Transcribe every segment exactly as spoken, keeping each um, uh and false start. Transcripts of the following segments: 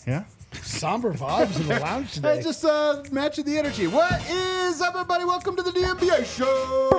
Yeah. Somber vibes in the lounge today. Hey, just uh, matching the energy. What is up, everybody? Welcome to the D M B A show.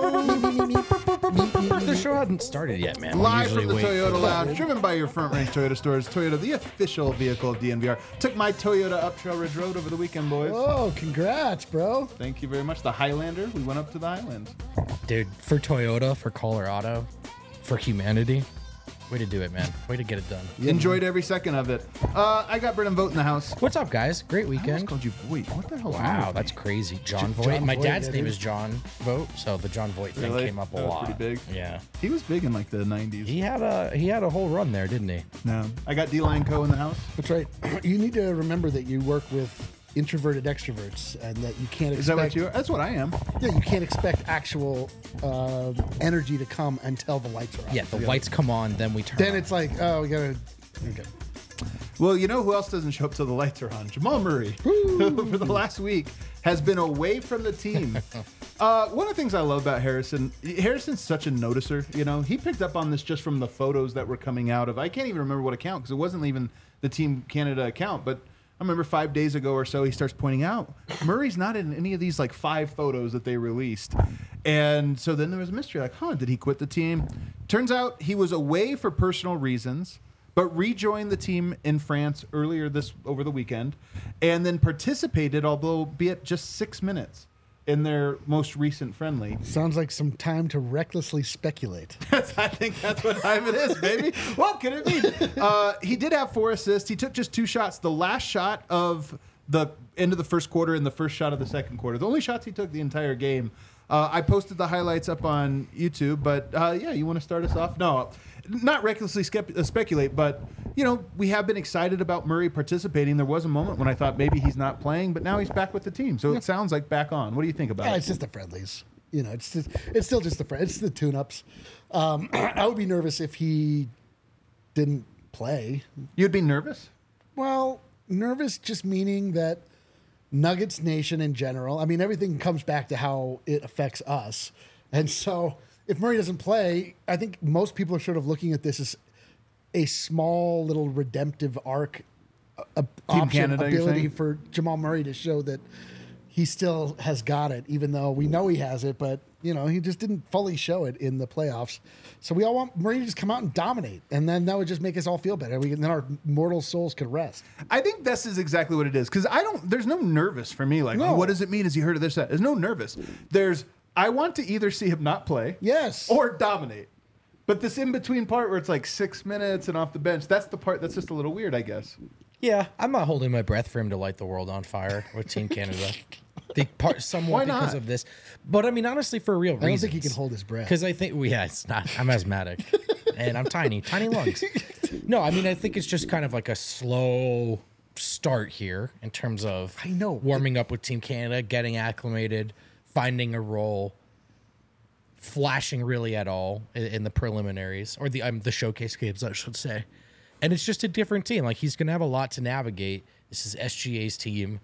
The show hasn't started yet, man. We Live usually from the wait Toyota for- Lounge, driven by your Front Range Toyota stores. Toyota, the official vehicle of D N V R. Took my Toyota up Trail Ridge Road over the weekend, boys. Oh, congrats, bro. Thank you very much. The Highlander. We went up to the Highlands. Dude, for Toyota, for Colorado, for humanity, way to do it, man. Way to get it done. Enjoyed every second of it. Uh, I got Brennan Vogt in the house. What's up, guys? Great I almost weekend. called you Voigt. What the hell? Wow, that's crazy. John Voight. John My Voight, dad's yeah, name dude. is John Voight, so the John Voight thing Really? came up a That was lot. pretty big. Yeah. He was big in like the nineties. He had a he had a whole run there, didn't he? No. I got D-Line Co. in the house. That's right. You need to remember that you work with introverted extroverts, and that you can't expect. Is that what you are? That's what I am. Yeah, you can't expect actual uh, energy to come until the lights are on. Yeah, the lights come on, then we turn Then on. it's like, oh, we gotta. Okay. Well, you know who else doesn't show up till the lights are on? Jamal Murray, who for the last week has been away from the team. uh, one of the things I love about Harrison, Harrison's such a noticer. You know, he picked up on this just from the photos that were coming out of. I can't even remember what account because it wasn't even the Team Canada account, but I remember five days ago or so, he starts pointing out Murray's not in any of these like five photos that they released. And so then there was a mystery like, huh, did he quit the team? Turns out he was away for personal reasons, but rejoined the team in France earlier this over the weekend, and then participated, although be it just six minutes, in their most recent friendly. Sounds like some time to recklessly speculate. I think that's what time it is, baby. What can it mean? Uh, he did have four assists. He took just two shots. The last shot of the end of the first quarter and the first shot of the second quarter. The only shots he took the entire game. Uh, I posted the highlights up on YouTube, but uh, yeah, you want to start us off? No, not recklessly skept- uh, speculate, but you know, we have been excited about Murray participating. There was a moment when I thought maybe he's not playing, but now he's back with the team. So it sounds like back on. What do you think about Yeah, it? it's just the friendlies. You know, it's just it's still just the friend. It's the tune-ups. Um, I would be nervous if he didn't play. You'd be nervous? Well, nervous just meaning that Nuggets Nation in general. I mean, everything comes back to how it affects us, and so if Murray doesn't play, I think most people are sort of looking at this as a small little redemptive arc, a, option, Canada, you're ability saying? for Jamal Murray to show that he still has got it, even though we know he has it, but you know, he just didn't fully show it in the playoffs. So we all want Murray to just come out and dominate, and then that would just make us all feel better. We, then our mortal souls could rest. I think this is exactly what it is because I don't. There's no nervous for me. Like, No. oh, what does it mean? Has he heard of this? That? There's no nervous. There's. I want to either see him not play, Yes. or dominate. But this in between part where it's like six minutes and off the bench, that's the part that's just a little weird, I guess. Yeah, I'm not holding my breath for him to light the world on fire with Team Canada. The part somewhat Why because not? of this, but I mean honestly for real I don't reasons. think he can hold his breath. Because I think, well, yeah, it's not. I'm asthmatic, and I'm tiny, tiny lungs. No, I mean I think it's just kind of like a slow start here in terms of I know. warming up with Team Canada, getting acclimated, finding a role, flashing really at all in, in the preliminaries or the um, the showcase games, I should say. And it's just a different team. Like he's gonna have a lot to navigate. This is S G A's team.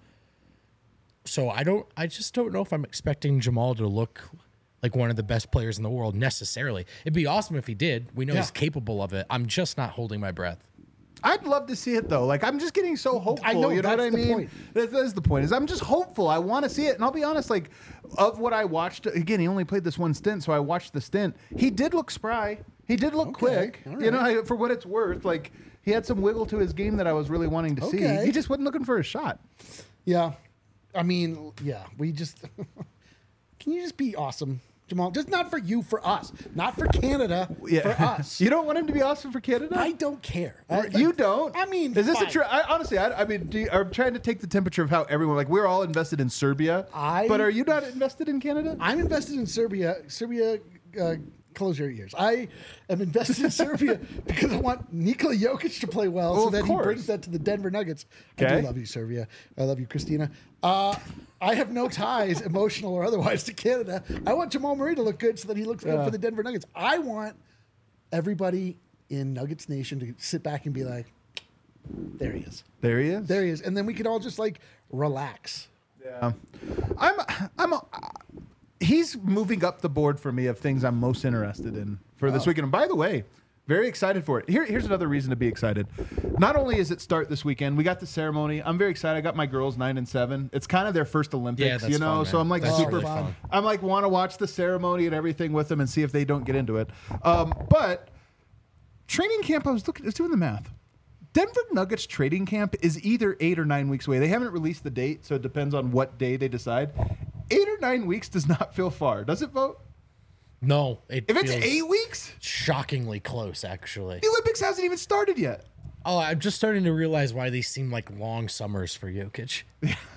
So I don't I just don't know if I'm expecting Jamal to look like one of the best players in the world necessarily. It'd be awesome if he did. We know Yeah. he's capable of it. I'm just not holding my breath. I'd love to see it though. Like I'm just getting so hopeful. I know, you know what I that's the mean? point. That, that is the point. Is I'm just hopeful. I want to see it, and I'll be honest. Like of what I watched, again, he only played this one stint, so I watched the stint. He did look spry. He did look Okay, quick. all You know, right. I, for what it's worth, like he had some wiggle to his game that I was really wanting to Okay. see. He just wasn't looking for a shot. Yeah. I mean, yeah, we just can you just be awesome, Jamal? Just not for you, for us. Not for Canada, for us. You don't want him to be awesome for Canada? I don't care. I- you like, don't. I mean, is this fine. a true? I, honestly, I, I mean, do you, I'm trying to take the temperature of how everyone. Like, we're all invested in Serbia. I- but are you not invested in Canada? I'm invested in Serbia. Serbia, uh, close your ears. I am invested in Serbia because I want Nikola Jokic to play well, Well, so of that course. he brings that to the Denver Nuggets. I Okay. do love you, Serbia. I love you, Christina. Uh, I have no ties, emotional or otherwise, to Canada. I want Jamal Murray to look good so that he looks good Yeah. for the Denver Nuggets. I want everybody in Nuggets Nation to sit back and be like, there he is. There he is. There he is. And then we could all just like relax. Yeah. I'm. I'm. A, he's moving up the board for me of things I'm most interested in for this Oh. weekend. And by the way, Very excited for it. Here, here's another reason to be excited. Not only is it start this weekend, we got the ceremony. I'm very excited. I got my girls nine and seven. It's kind of their first Olympics, Yeah, that's you know. fun, so man. I'm like That's super really fun. fun. I'm like want to watch the ceremony and everything with them and see if they don't get into it. Um, but training camp, I was looking, I was doing the math. Denver Nuggets trading camp is either eight or nine weeks away. They haven't released the date, so it depends on what day they decide. Eight or nine weeks does not feel far, does it, Vote? No, it If it's feels eight weeks, shockingly close, actually. the Olympics hasn't even started yet. Oh, I'm just starting to realize why these seem like long summers for Jokic.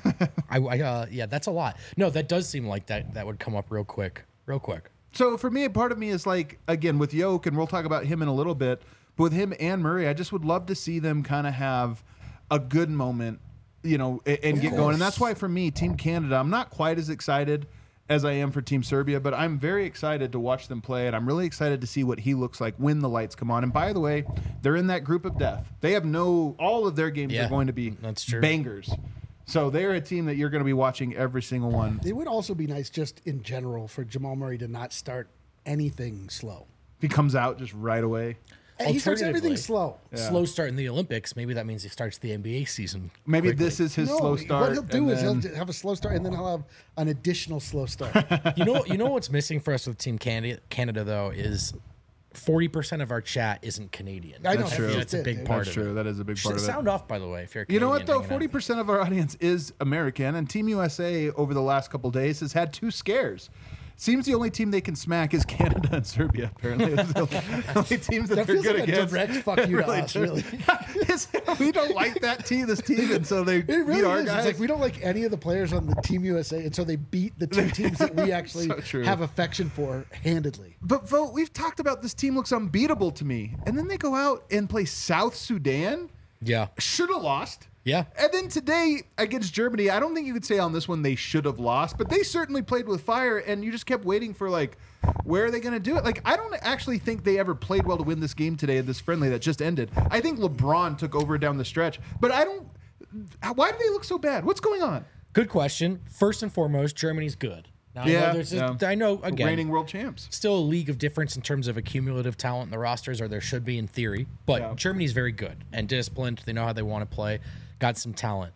I, I uh, yeah, that's a lot. No, that does seem like that that would come up real quick, real quick. So for me, part of me is like, again, with Yoke, and we'll talk about him in a little bit, but with him and Murray, I just would love to see them kind of have a good moment, you know, and, and get going. And that's why for me, Team Canada, I'm not quite as excited as I am for Team Serbia, but I'm very excited to watch them play, and I'm really excited to see what he looks like when the lights come on. And by the way, they're in that group of death. They have no, all of their games Yeah, are going to be that's true. bangers. So they're a team that you're going to be watching every single one. It would also be nice, just in general, for Jamal Murray to not start anything slow. He comes out just right away. And he starts everything Alternatively, slow. Slow start in the Olympics. Maybe that means he starts the N B A season. Maybe quickly. this is his No, slow start. what he'll do and is then- he'll have a slow start, and then he'll have an additional slow start. You know, you know what's missing for us with Team Canada, Canada though, is forty percent of our chat isn't Canadian. I know, That's true. That's a it, big dude. part That's of true. it. That is a big part of it. Sound off, by the way, if you're a You know what, Canadian though? hanging out. forty percent of our audience is American, and Team U S A over the last couple days has had two scares. Seems the only team they can smack is Canada and Serbia, apparently. Those are the only teams that, That they're feels good like a against. direct fuck you to us, does. really. It's- we don't like that team, this team, and so they It really beat our is. guys. It's like we don't like any of the players on the Team U S A, and so they beat the two teams that we actually So true. have affection for handedly. But, Vote, we've talked about this team looks unbeatable to me. And then they go out and play South Sudan. Yeah, Should have lost. yeah. And then today against Germany, I don't think you could say on this one they should have lost, but they certainly played with fire, and you just kept waiting for, like, where are they going to do it? Like, I don't actually think they ever played well to win this game today at this friendly that just ended. I think LeBron took over down the stretch, but I don't. Why do they look so bad? What's going on? Good question. First and foremost, Germany's good. Now, I Yeah, know there's just, yeah. I know again, Reigning world champs. still a league of difference in terms of accumulative talent in the rosters, or there should be in theory. But Yeah. Germany's very good and disciplined. They know how they want to play. Got some talent.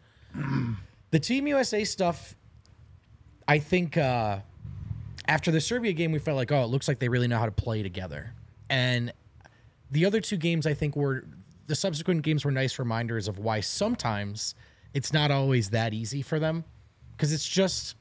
The Team U S A stuff, I think uh, after the Serbia game, we felt like, oh, it looks like they really know how to play together. And the other two games, I think, were the subsequent games were nice reminders of why sometimes it's not always that easy for them, because it's just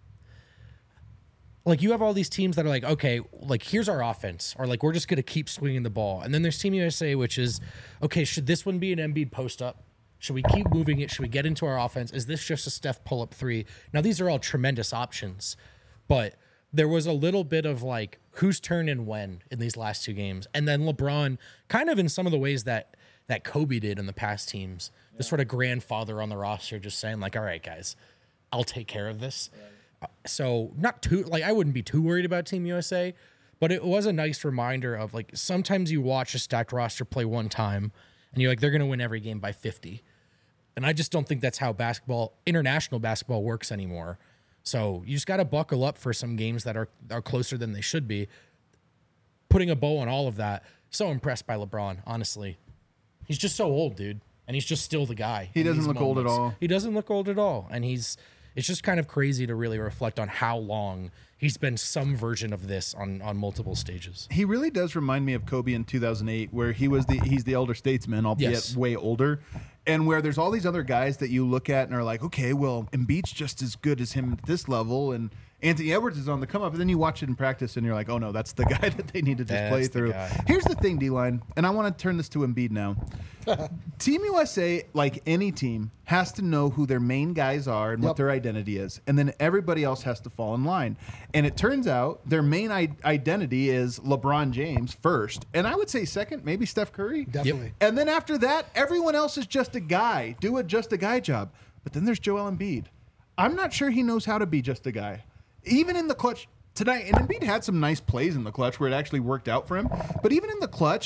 like you have all these teams that are like, okay, like here's our offense, or like we're just going to keep swinging the ball. And then there's Team U S A, which is, okay, should this one be an Embiid post up? Should we keep moving it? Should we get into our offense? Is this just a Steph pull up three? Now, these are all tremendous options, but there was a little bit of like whose turn and when in these last two games. And then LeBron, kind of in some of the ways that that Kobe did in the past teams, the sort of grandfather on the roster, just saying like, all right, guys, I'll take care of this. So not too like I wouldn't be too worried about Team U S A, but it was a nice reminder of like sometimes you watch a stacked roster play one time and you're like they're going to win every game by fifty. And I just don't think that's how basketball, international basketball works anymore. So you just got to buckle up for some games that are are closer than they should be. Putting a bow on all of that. So impressed by LeBron, honestly. He's just so old, dude. And he's just still the guy. He in doesn't these look old at moments. all. He doesn't look old at all. And he's it's just kind of crazy to really reflect on how long he's been some version of this on, on multiple stages. He really does remind me of Kobe in two thousand eight, where he was the he's the elder statesman, albeit Yes. way older, and where there's all these other guys that you look at and are like, okay, well, Embiid's just as good as him at this level, and Anthony Edwards is on the come up, and then you watch it in practice and you're like, oh no, that's the guy that they need to just That's play the through. guy. Here's the thing, D-Line, and I want to turn this to Embiid now. Team U S A, like any team, has to know who their main guys are and what Yep. their identity is, and then everybody else has to fall in line. And it turns out their main I- identity is LeBron James first, and I would say second, maybe Steph Curry. Definitely. And then after that, everyone else is just a guy. Do a just a guy job. But then there's Joel Embiid. I'm not sure he knows how to be just a guy. Even in the clutch tonight, and Embiid had some nice plays in the clutch where it actually worked out for him. But even in the clutch,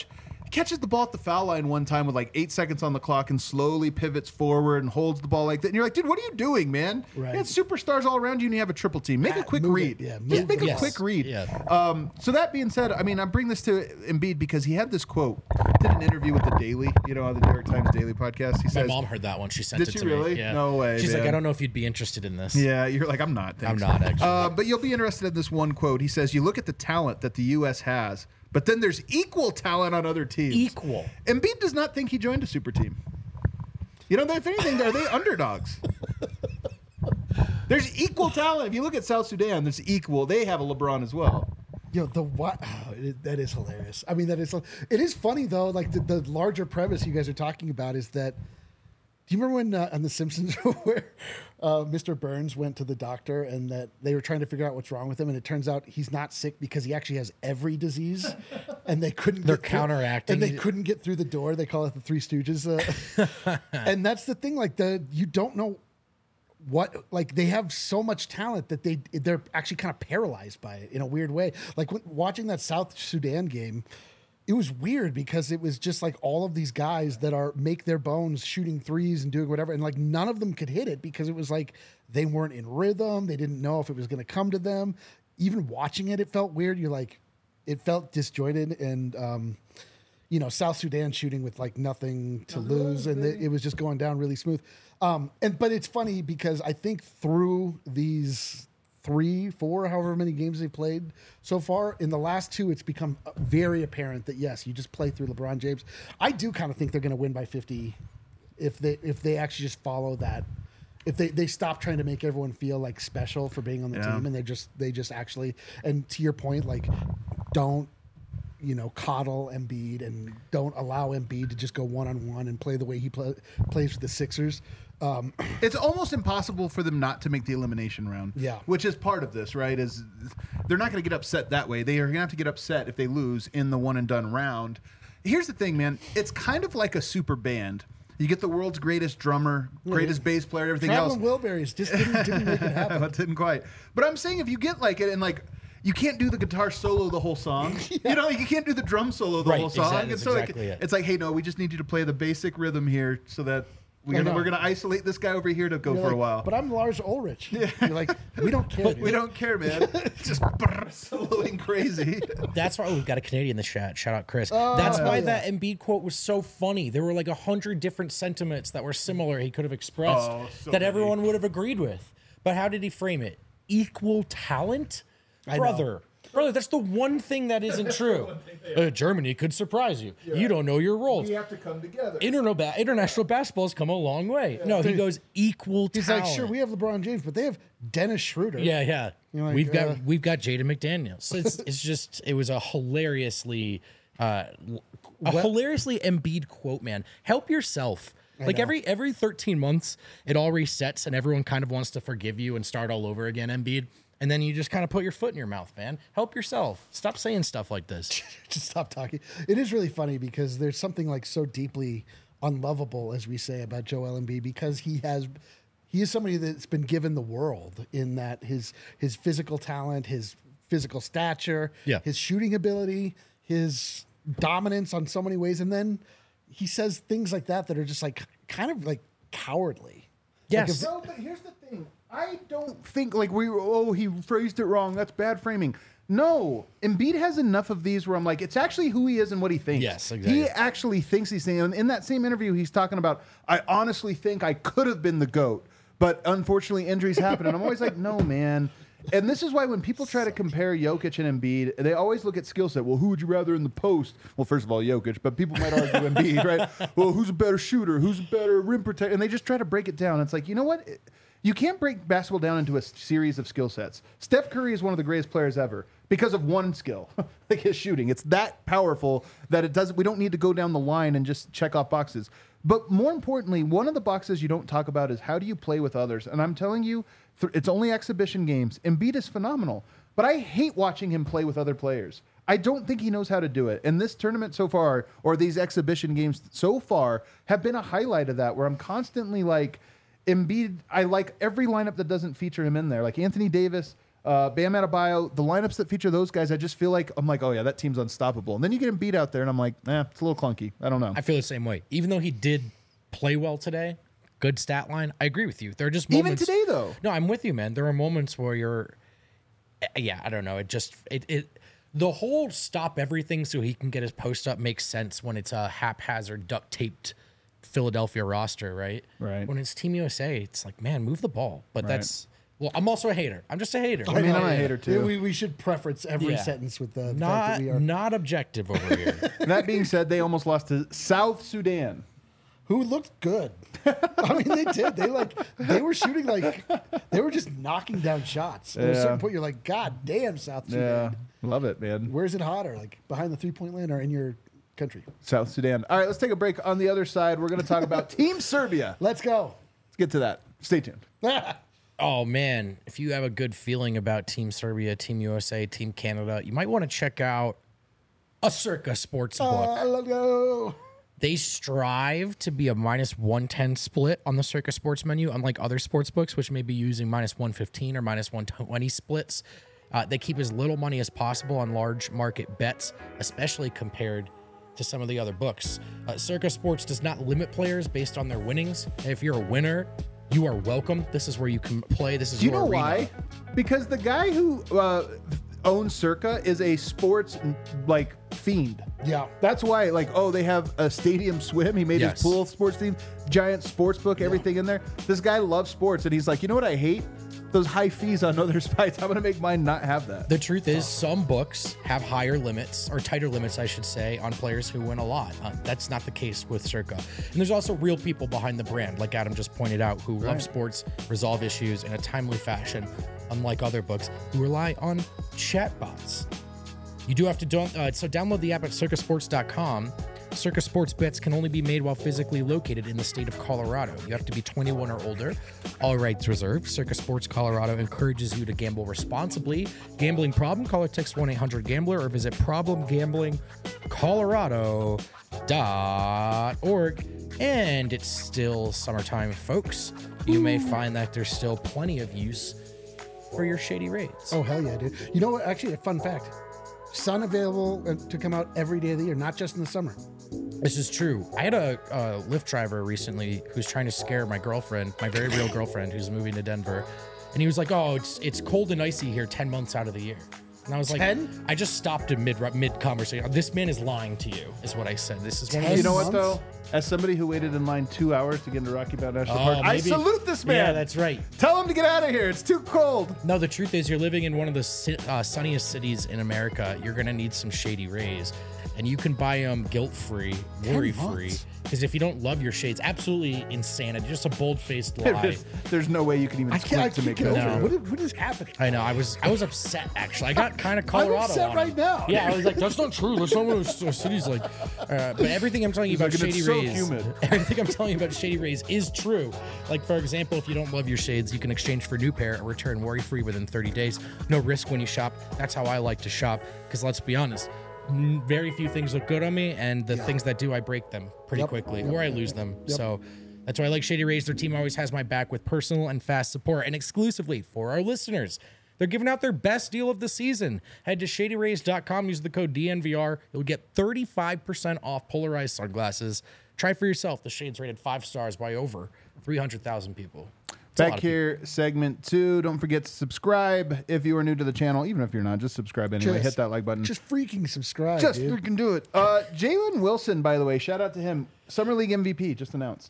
He catches the ball at the foul line one time with like eight seconds on the clock and slowly pivots forward and holds the ball like that. And you're like, dude, what are you doing, man? Right. You had superstars all around you and you have a triple team. Make Yeah, a quick move read. it. Yeah, Just move make it. a Yes. quick read. Yeah. Um, so that being said, I mean, I bring this to Embiid because he had this quote. Did an interview with the Daily, you know, on the New York Times Daily podcast. He My says, mom heard that one. She sent Did it she to really? me. Yeah. No way, She's like, man. I don't know if you'd be interested in this. yeah, you're like, I'm not. I'm Thanks. not actually. Uh, but you'll be interested in this one quote. He says, you look at the talent that the U S has, but then there's equal talent on other teams. Equal. Embiid does not think he joined a super team. You know, if anything, are they underdogs? There's equal talent. If you look at South Sudan, there's equal. They have a LeBron as well. Yo, the what? Oh, it, that is hilarious. I mean, that is. It is funny though. Like the, the larger premise you guys are talking about is that. Do you remember when uh, on The Simpsons where uh, Mister Burns went to the doctor and that they were trying to figure out what's wrong with him, and it turns out he's not sick because he actually has every disease, and they couldn't. They're get through- counteracting. and they couldn't get through the door. They call it the Three Stooges, uh, and that's the thing. Like the you don't know what like they have so much talent that they they're actually kind of paralyzed by it in a weird way. Like when, watching that South Sudan game. It was weird because it was just like all of these guys that are make their bones shooting threes and doing whatever. And like none of them could hit it because it was like they weren't in rhythm. They didn't know if it was going to come to them. Even watching it, it felt weird. You're like, it felt disjointed. And, um, you know, South Sudan shooting with like nothing to lose. And it, it was just going down really smooth. Um, and, but it's funny because I think through these three, four, however many games they played so far. In the last two, it's become very apparent that yes, you just play through LeBron James. I do kind of think they're going to win by fifty if they if they actually just follow that. If they, they stop trying to make everyone feel like special for being on the Yeah. team and they just they just actually and to your point, like don't you know coddle Embiid and don't allow Embiid to just go one on one and play the way he play, plays for the Sixers. Um, It's almost impossible for them not to make the elimination round. Yeah. Which is part of this, right? Is they're not going to get upset that way. They are going to have to get upset if they lose in the one and done round. Here's the thing, man. It's kind of like a super band. You get the world's greatest drummer, greatest bass player, everything Traveling else. Wilburys just didn't, didn't make it happen. It didn't quite. But I'm saying if you get like it and like you can't do the guitar solo the whole song. You know, you can't do the drum solo the Right, whole song. exactly- It's that's so exactly like it. it's like, hey, no, we just need you to play the basic rhythm here so that we're I gonna, know. we're gonna isolate this guy over here to go You're for like, a while. But I'm Lars Ulrich. You're like, we don't care. We dude. don't care, man. It's just brrr, soloing crazy. That's why oh, we've got a Canadian in the chat. Shout out Chris. Oh, That's why yeah. that Embiid quote was so funny. There were like a hundred different sentiments that were similar he could have expressed Oh, so that many. everyone would have agreed with. But how did he frame it? Equal talent? I know. Brother. Brother, that's the one thing that isn't true. Uh, Germany could surprise you. You don't know your roles. have to come together. Interno- ba- international basketball's come a long way. No, he goes equal He's talent. like, sure, we have LeBron James, but they have Dennis Schroeder. Yeah, yeah. You're like, we've got uh, we've got Jaden McDaniels. So it's it's just it was a hilariously uh, a Well- hilariously Embiid quote, man. Help yourself. Like know. every every thirteen months, it all resets and everyone kind of wants to forgive you and start all over again, Embiid. And then you just kind of put your foot in your mouth, man. Help yourself. Stop saying stuff like this. Just stop talking. It is really funny because there's something like so deeply unlovable, as we say, about Joel Embiid because he has. He is somebody that's been given the world in that his his physical talent, his physical stature, Yeah. his shooting ability, his dominance on so many ways, and then he says things like that that are just like kind of like cowardly. Yes. Like if- No, but here's the thing. I don't think like we oh he phrased it wrong. That's bad framing. No, Embiid has enough of these where I'm like, it's actually who he is and what he thinks. Yes, exactly. He actually thinks these things. And in that same interview, he's talking about, I honestly think I could have been the GOAT, but unfortunately injuries happen. And I'm always like, no, man. And this is why when people try to compare Jokic and Embiid, they always look at skill set. Well, who would you rather in the post? Well, first of all, Jokic, but people might argue Embiid, right? Well, who's a better shooter? Who's a better rim protector? And they just try to break it down. It's like, you know what? You can't break basketball down into a series of skill sets. Steph Curry is one of the greatest players ever because of one skill, like his shooting. It's that powerful that it doesn't. We don't need to go down the line and just check off boxes. But more importantly, one of the boxes you don't talk about is how do you play with others. And I'm telling you, th- it's only exhibition games. Embiid is phenomenal, but I hate watching him play with other players. I don't think he knows how to do it. And this tournament so far, or these exhibition games so far, have been a highlight of that, where I'm constantly like, Embiid, I like every lineup that doesn't feature him in there. Like Anthony Davis, uh, Bam Adebayo, the lineups that feature those guys, I just feel like I'm like, oh yeah, that team's unstoppable. And then you get him beat out there, and I'm like, eh, it's a little clunky. I don't know. I feel the same way. Even though he did play well today, good stat line. I agree with you. There are just Even moments. today, though. No, I'm with you, man. There are moments where you're, yeah, I don't know. It just it it the whole stop everything so he can get his post up makes sense when it's a haphazard duct taped Philadelphia roster, right? Right. When it's Team U S A, it's like, man, move the ball. But Right. that's well, I'm also a hater. I'm just a hater. I mean, I'm a hater too. We, we should preference every Yeah. sentence with the, the fact Not that we are. not objective over here. That being said, they almost lost to South Sudan. Who looked good. I mean, they did. They like they were shooting like they were just knocking down shots. At a Yeah. certain point, you're like, God damn, South Yeah, Sudan. love it, man. Where's it hotter? Like behind the three point line or in your country? South Sudan. All right, let's take a break. On the other side, we're going to talk about Team Serbia. Let's go. Let's get to that. Stay tuned. Oh man, if you have a good feeling about Team Serbia, Team U S A, Team Canada, you might want to check out a Circa sports book. Uh, let's go. They strive to be a minus one ten split on the Circa sports menu, unlike other sports books, which may be using minus one fifteen or minus one twenty splits. Uh, they keep as little money as possible on large market bets, especially compared to some of the other books. Uh, Circa Sports does not limit players based on their winnings. If you're a winner, you are welcome. This is where you can play. This is Do you your know arena. why? Because the guy who uh, owns Circa is a sports like fiend. Yeah. That's why, like, oh, they have a stadium swim. He made Yes. his pool sports team, giant sports book, everything in there. This guy loves sports, and he's like, you know what I hate? Those high fees on other sites. I'm gonna make mine not have that. The truth is, some books have higher limits, or tighter limits, I should say, on players who win a lot. Uh, that's not the case with Circa. And there's also real people behind the brand, like Adam just pointed out, who love sports, resolve issues in a timely fashion, unlike other books who rely on chatbots. You do have to don't uh, so download the app at circa sports dot com. Circa Sports bets can only be made while physically located in the state of Colorado. You have to be twenty-one or older. All rights reserved. Circa Sports Colorado encourages you to gamble responsibly. Gambling problem? Call or text one eight hundred gambler or visit problem gambling colorado dot org. And it's still summertime, folks. You may find that there's still plenty of use for your shady rates. Oh, hell yeah, dude. You know what? Actually, a fun fact. Sun available uh, to come out every day of the year, not just in the summer. This is true. I had a, a Lyft driver recently who's trying to scare my girlfriend, my very real girlfriend, who's moving to Denver, and he was like, "Oh, it's it's cold and icy here ten months out of the year." And I was like, ten? I just stopped in mid mid conversation. This man is lying to you, is what I said. This is one of ten those. You know what months? though? As somebody who waited in line two hours to get into Rocky Mountain National Oh, Park, I maybe- salute this man. Yeah, that's right. Tell him to get out of here. It's too cold. No, the truth is, you're living in one of the si- uh, sunniest cities in America. You're gonna need some shady rays, and you can buy them guilt-free, worry-free. months. Because if you don't love your shades, absolutely insanity. Just a bold-faced lie. There's, there's no way you can even I can't, I squint to can't make get that over No. it. What is, what is happening? I know. I was I was upset actually. I got kind of Colorado. upset on right him. now. Yeah, I was like, that's not true. That's not what a city's like. Uh, but everything I'm telling you about like, "And Shady it's so Rays, humid." everything I'm telling you about Shady Rays is true. Like for example, if you don't love your shades, you can exchange for a new pair and return worry free within thirty days. No risk when you shop. That's how I like to shop. Because let's be honest. n- Very few things look good on me, and the things that do, I break them pretty Yep. quickly, Yep. or I lose them. So that's why I like Shady Rays. Their team always has my back with personal and fast support, and exclusively for our listeners. They're giving out their best deal of the season. Head to shady rays dot com, use the code D N V R. You'll get thirty-five percent off polarized sunglasses. Try for yourself. The shades rated five stars by over three hundred thousand people. It's a lot Back of people. here, segment two. Don't forget to subscribe if you are new to the channel. Even if you're not, just subscribe anyway. Just- Hit that like button. Just freaking subscribe, Just dude. freaking do it. Uh, Jalen Wilson, by the way, shout out to him. Summer League M V P just announced.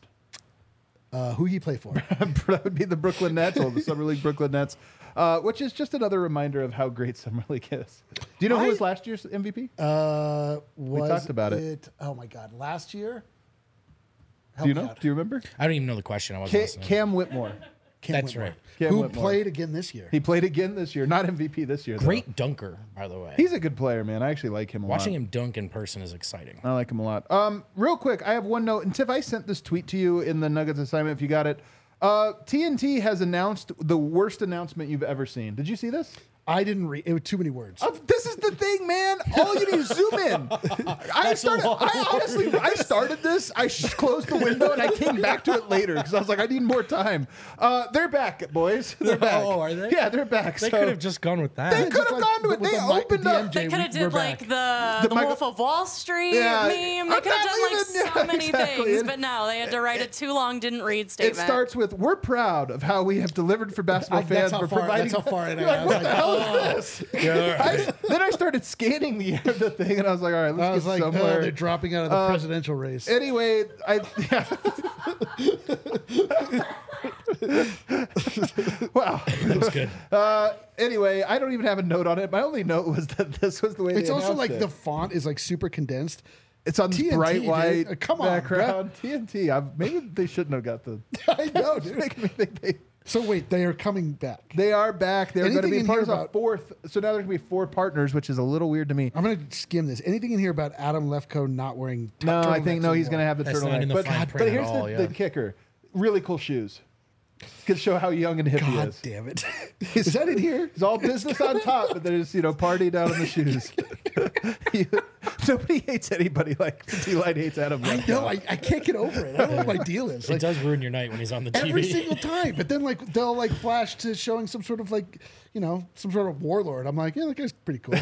Uh, who he play for? That would be the Brooklyn Nets, or the Summer League Brooklyn Nets, uh, which is just another reminder of how great Summer League is. Do you know who I- was last year's M V P? Uh, was talked about it. Oh my God! Last year. Do you know? Help me out. Do you remember? I don't even know the question. I wasn't Ca- listening. Cam Whitmore. Cam That's Whitmore. right. Cam Who Whitmore. played again this year? He played again this year. Not M V P this year, though. Great dunker, by the way. He's a good player, man. I actually like him a Watching lot. him dunk in person is exciting. I like him a lot. Um, real quick, I have one note. And Tiff, I sent this tweet to you in the Nuggets assignment if you got it. Uh, T N T has announced the worst announcement you've ever seen. Did you see this? I didn't read. It was too many words. Uh, this is the thing, man. All you need is zoom in. I started. I honestly, I started this. I sh- closed the window and I came back to it later because I was like, I need more time. Uh, they're back, boys. They're back. Oh, are they? Yeah, they're back. They So could have just gone with that. They Yeah, could just have like gone to the- it. with They the mic- opened the up. M J, They could have we- we're did like back. the, The the, Michael- Wolf of Wall Street Yeah, meme. They I'm could have not done like even- yeah, so many exactly. things, It- but no, they had to write a too long didn't read It statement. starts with, "We're proud of how we have delivered for basketball I- that's fans. how We're far- providing." that's how far in I You're like, was what like, the hell oh. is this? I, then I started scanning the the thing, and I was like, "All right, let's I was get like, oh, somewhere." they're dropping out of the Uh, presidential race. Anyway, I yeah. Wow. That was good. Uh, anyway, I don't even have a note on it. My only note was that this was the way. It's they also announced like it. the font is like super condensed. It's on T this N T, bright dude. white Uh, come on, background. T N T. I, maybe they shouldn't have got the. I know, dude. Making me think they. So wait, they are coming back. They are back. They're going to Anything be in part here of a about- fourth. So now there's going to be four partners, which is a little weird to me. I'm gonna skim this. Anything in here about Adam Lefkoe not wearing? t- No, I think turtlenecks no. He's anymore? going to have the That's not turtleneck. in the but, fine but print at here's all, the, yeah. the kicker: really cool shoes. Could show how young and hip he God is. damn it! Is that in here? It's all business on top, but there's, you know, party down in the shoes. Nobody hates anybody like T-Light hates Adam. I Lefkoe. know. I, I can't get over it. I don't know what my deal is. It Like, does ruin your night when he's on the T V. every single time. But then like they'll like flash to showing some sort of like, you know, some sort of warlord. I'm like, yeah, that guy's pretty cool.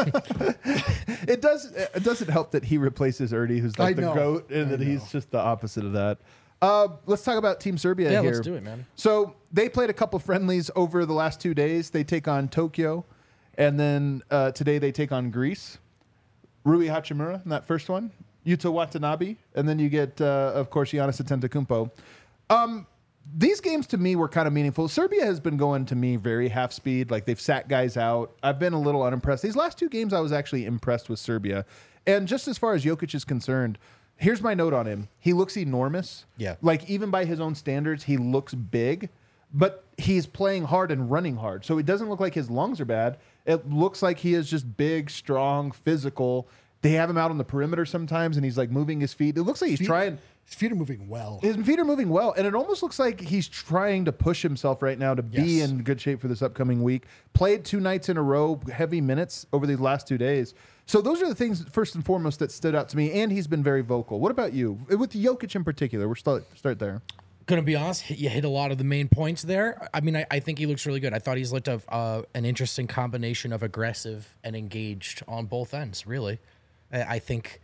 It does. It doesn't help that he replaces Ernie, who's like I the know. goat, and I that he's know. just the opposite of that. Uh, let's talk about Team Serbia Yeah, here. let's do it, man. So they played a couple friendlies over the last two days. They take on Tokyo, and then uh, today they take on Greece. Rui Hachimura in that first one, Yuta Watanabe, and then you get, uh, of course, Giannis Antetokounmpo. Um, these games to me were kind of meaningful. Serbia has been going to me very half speed. Like they've sat guys out. I've been a little unimpressed. These last two games, I was actually impressed with Serbia. And just as far as Jokic is concerned, here's my note on him. He looks enormous. Yeah. Like even by his own standards, he looks big, but he's playing hard and running hard. So it doesn't look like his lungs are bad. It looks like he is just big, strong, physical. They have him out on the perimeter sometimes, and he's like moving his feet. It looks like he's Feet- trying. His feet are moving well. His feet are moving well, and it almost looks like he's trying to push himself right now to be Yes. in good shape for this upcoming week. Played two nights in a row, heavy minutes over these last two days. So those are the things, first and foremost, that stood out to me, and he's been very vocal. What about you? With Jokic in particular, we're start, start there. Gonna be honest, you hit a lot of the main points there. I mean, I, I think he looks really good. I thought he's looked of uh, an interesting combination of aggressive and engaged on both ends. Really, I, I think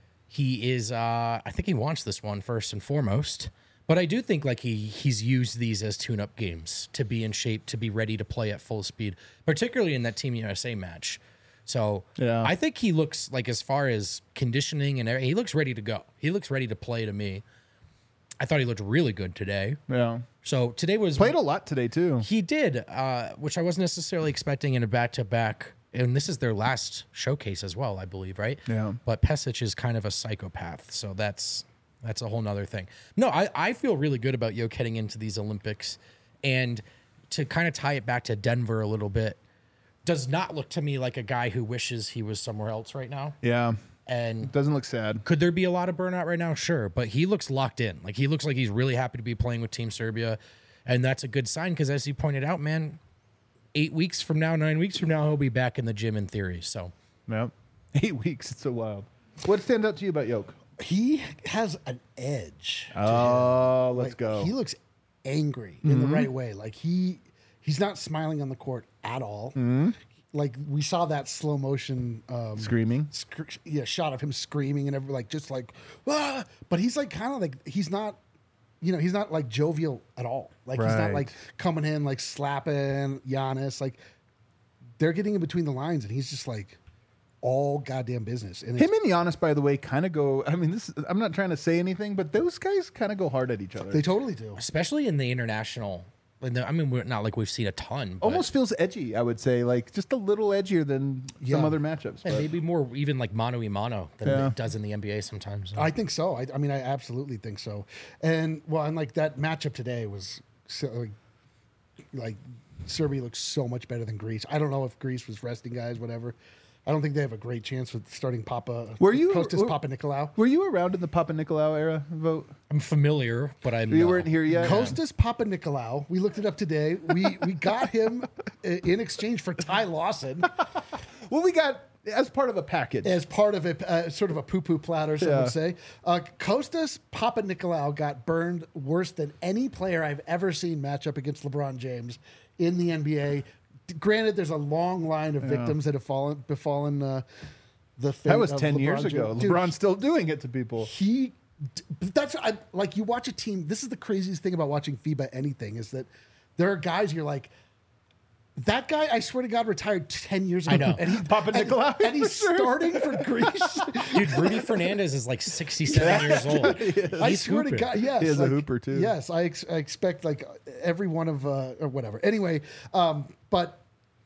he is. Uh, I think he wants this one first and foremost. But I do think like he he's used these as tune-up games to be in shape, to be ready to play at full speed, particularly in that Team U S A match. So Yeah. I think he looks like, as far as conditioning and everything, he looks ready to go. He looks ready to play to me. I thought he looked really good today. Yeah. So today was Played a lot today, too. he did, uh, which I wasn't necessarily expecting in a back-to-back. And this is their last showcase as well, I believe, right? Yeah. But Pesic is kind of a psychopath, so that's that's a whole nother thing. No, I, I feel really good about Yoke heading into these Olympics. And to kind of tie it back to Denver a little bit, does not look to me like a guy who wishes he was somewhere else right now. Yeah. And Doesn't look sad. could there be a lot of burnout right now? Sure, but he looks locked in. Like he looks like he's really happy to be playing with Team Serbia, and that's a good sign because, as you pointed out, man, eight weeks from now, nine weeks from now, he'll be back in the gym in theory. So Yeah. Eight weeks. It's so wild. What stands out to you about Yoke? He has an edge. Oh, let's Like, go. Mm-hmm. He looks angry in the right way. Like he he's not smiling on the court at all. Mm-hmm. Like we saw that slow motion um, Screaming. sc- yeah, shot of him screaming and every like just like ah! But he's like kind of like he's not, you know, he's not like jovial at all. Like he's Right. not like coming in like slapping Giannis. Like they're getting in between the lines and he's just like all goddamn business. And Him it's, and Giannis, by the way, kind of go. I mean, this. I'm not trying to say anything, but those guys kind of go hard at each other. they totally do. especially in the international, in the, I mean, we're not like we've seen a ton, but Almost feels edgy, I would say, like just a little edgier than some Yeah. other matchups. and but- maybe more even like mano y mano than Yeah. it does in the N B A sometimes. I think so. I, I mean, I absolutely think so. And well, and like that matchup today was so, like, like Serbia looks so much better than Greece. I don't know if Greece was resting guys, whatever. I don't think they have a great chance with starting Papa. Were you- Kostas were- Papa Nicolau? Were you around in the Papa Nicolau era vote? I'm familiar, but I'm You no. weren't here yet. Kostas Papa Nicolau. We looked it up today. We we got him i- in exchange for Ty Lawson Well, we got as part of a package. as part of a uh, sort of a poo poo platter. Some Yeah. would say. Uh, Kostas Papa Nicolau got burned worse than any player I've ever seen match up against LeBron James in the N B A. Granted, there's a long line of victims that have fallen befallen uh, the fate That was of ten LeBron years ago. James. Dude, LeBron's still doing it to people. he but that's I, like you watch a team. This is the craziest thing about watching FIBA anything is that there are guys you're like, that guy I swear to God retired ten years ago. I know. and he, Papa and, Nicolau, and he's for sure. starting for Greece. Dude, Rudy Fernandez is like sixty-seven years old. I He's swear hooping. to God, yes, He is a like, hooper, too. Yes, I, ex- I expect like every one of uh, or whatever. Anyway, um, but.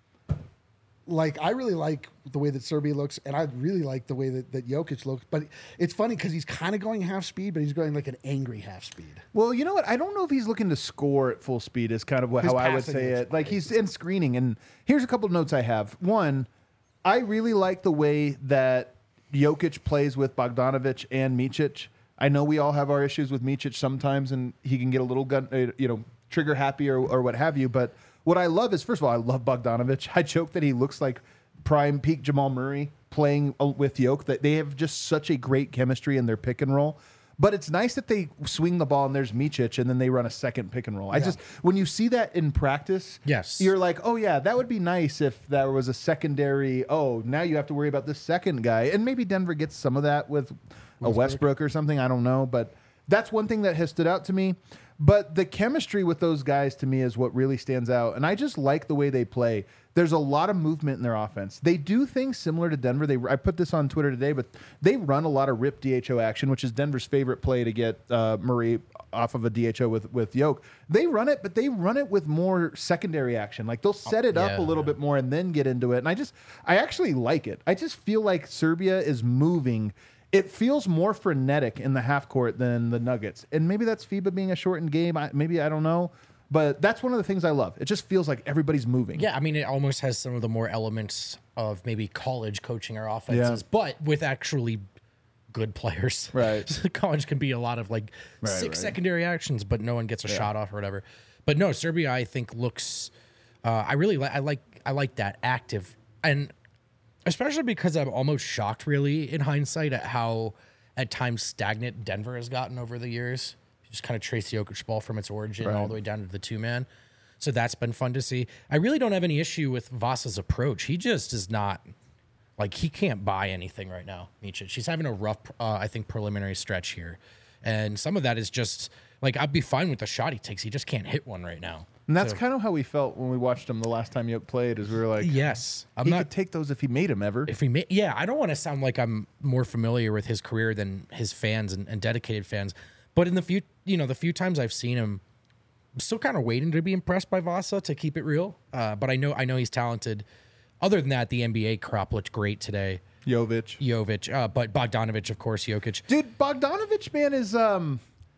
Like I really like the way that Serbia looks, and I really like the way that, that Jokic looks. But it's funny because he's kind of going half speed, but he's going like an angry half speed. Well, you know what? I don't know if he's looking to score at full speed. Is kind of what, His how I would passing say looks it. Like he's in screening, and here's a couple of notes I have. One, I really like the way that Jokic plays with Bogdanovic and Micic. I know we all have our issues with Micic sometimes, and he can get a little gun, uh, you know, trigger happy or, or what have you. But what I love is, first of all, I love Bogdanovic. I joke that he looks like prime peak Jamal Murray playing uh, with Jokic. That they have just such a great chemistry in their pick and roll. But it's nice that they swing the ball and there's Micic and then they run a second pick and roll. I just when you see that in practice, Yes. you're like, oh yeah, that would be nice if there was a secondary. Oh, now you have to worry about this second guy, and maybe Denver gets some of that with a Westbrook or something. I don't know, but that's one thing that has stood out to me. But the chemistry with those guys to me is what really stands out, and I just like the way they play. There's a lot of movement in their offense. They do things similar to Denver. They I put this on Twitter today, but they run a lot of rip D H O action, which is Denver's favorite play to get uh, Murray off of a D H O with with Yoke. They run it, but they run it with more secondary action. Like they'll set it up yeah, a little bit more and then get into it. And I just I actually like it. I just feel like Serbia is moving. It feels more frenetic in the half court than the Nuggets, and maybe that's FIBA being a shortened game. I, maybe I don't know. But that's one of the things I love. It just feels like everybody's moving. Yeah, I mean, it almost has some of the more elements of maybe college coaching our offenses, but with actually good players. Right. So college can be a lot of like Right, six right. secondary actions, but no one gets a shot off or whatever. But no, Serbia, I think looks. Uh, I really like. I like. I like that active, and especially because I'm almost shocked, really, in hindsight, at how at times stagnant Denver has gotten over the years. Just kind of trace the Jokic ball from its origin all the way down to the two man. So that's been fun to see. I really don't have any issue with Vasa's approach. He just is not like he can't buy anything right now. Micic. She's having a rough, uh, I think, preliminary stretch here, and some of that is just like I'd be fine with the shot he takes. He just can't hit one right now. And that's So- kind of how we felt when we watched him the last time Yoke played. Is we were like, Yes, I'm he not. could take those if he made them ever. If he ma- yeah, I don't want to sound like I'm more familiar with his career than his fans and, and dedicated fans. But in the few, you know, the few times I've seen him, I'm still kind of waiting to be impressed by Vasa, to keep it real. Uh, but I know, I know he's talented. Other than that, the N B A crop looked great today. Jovic. Jovic, uh, but Bogdanovic, of course, Jokic. Dude, Bogdanovic, man, is um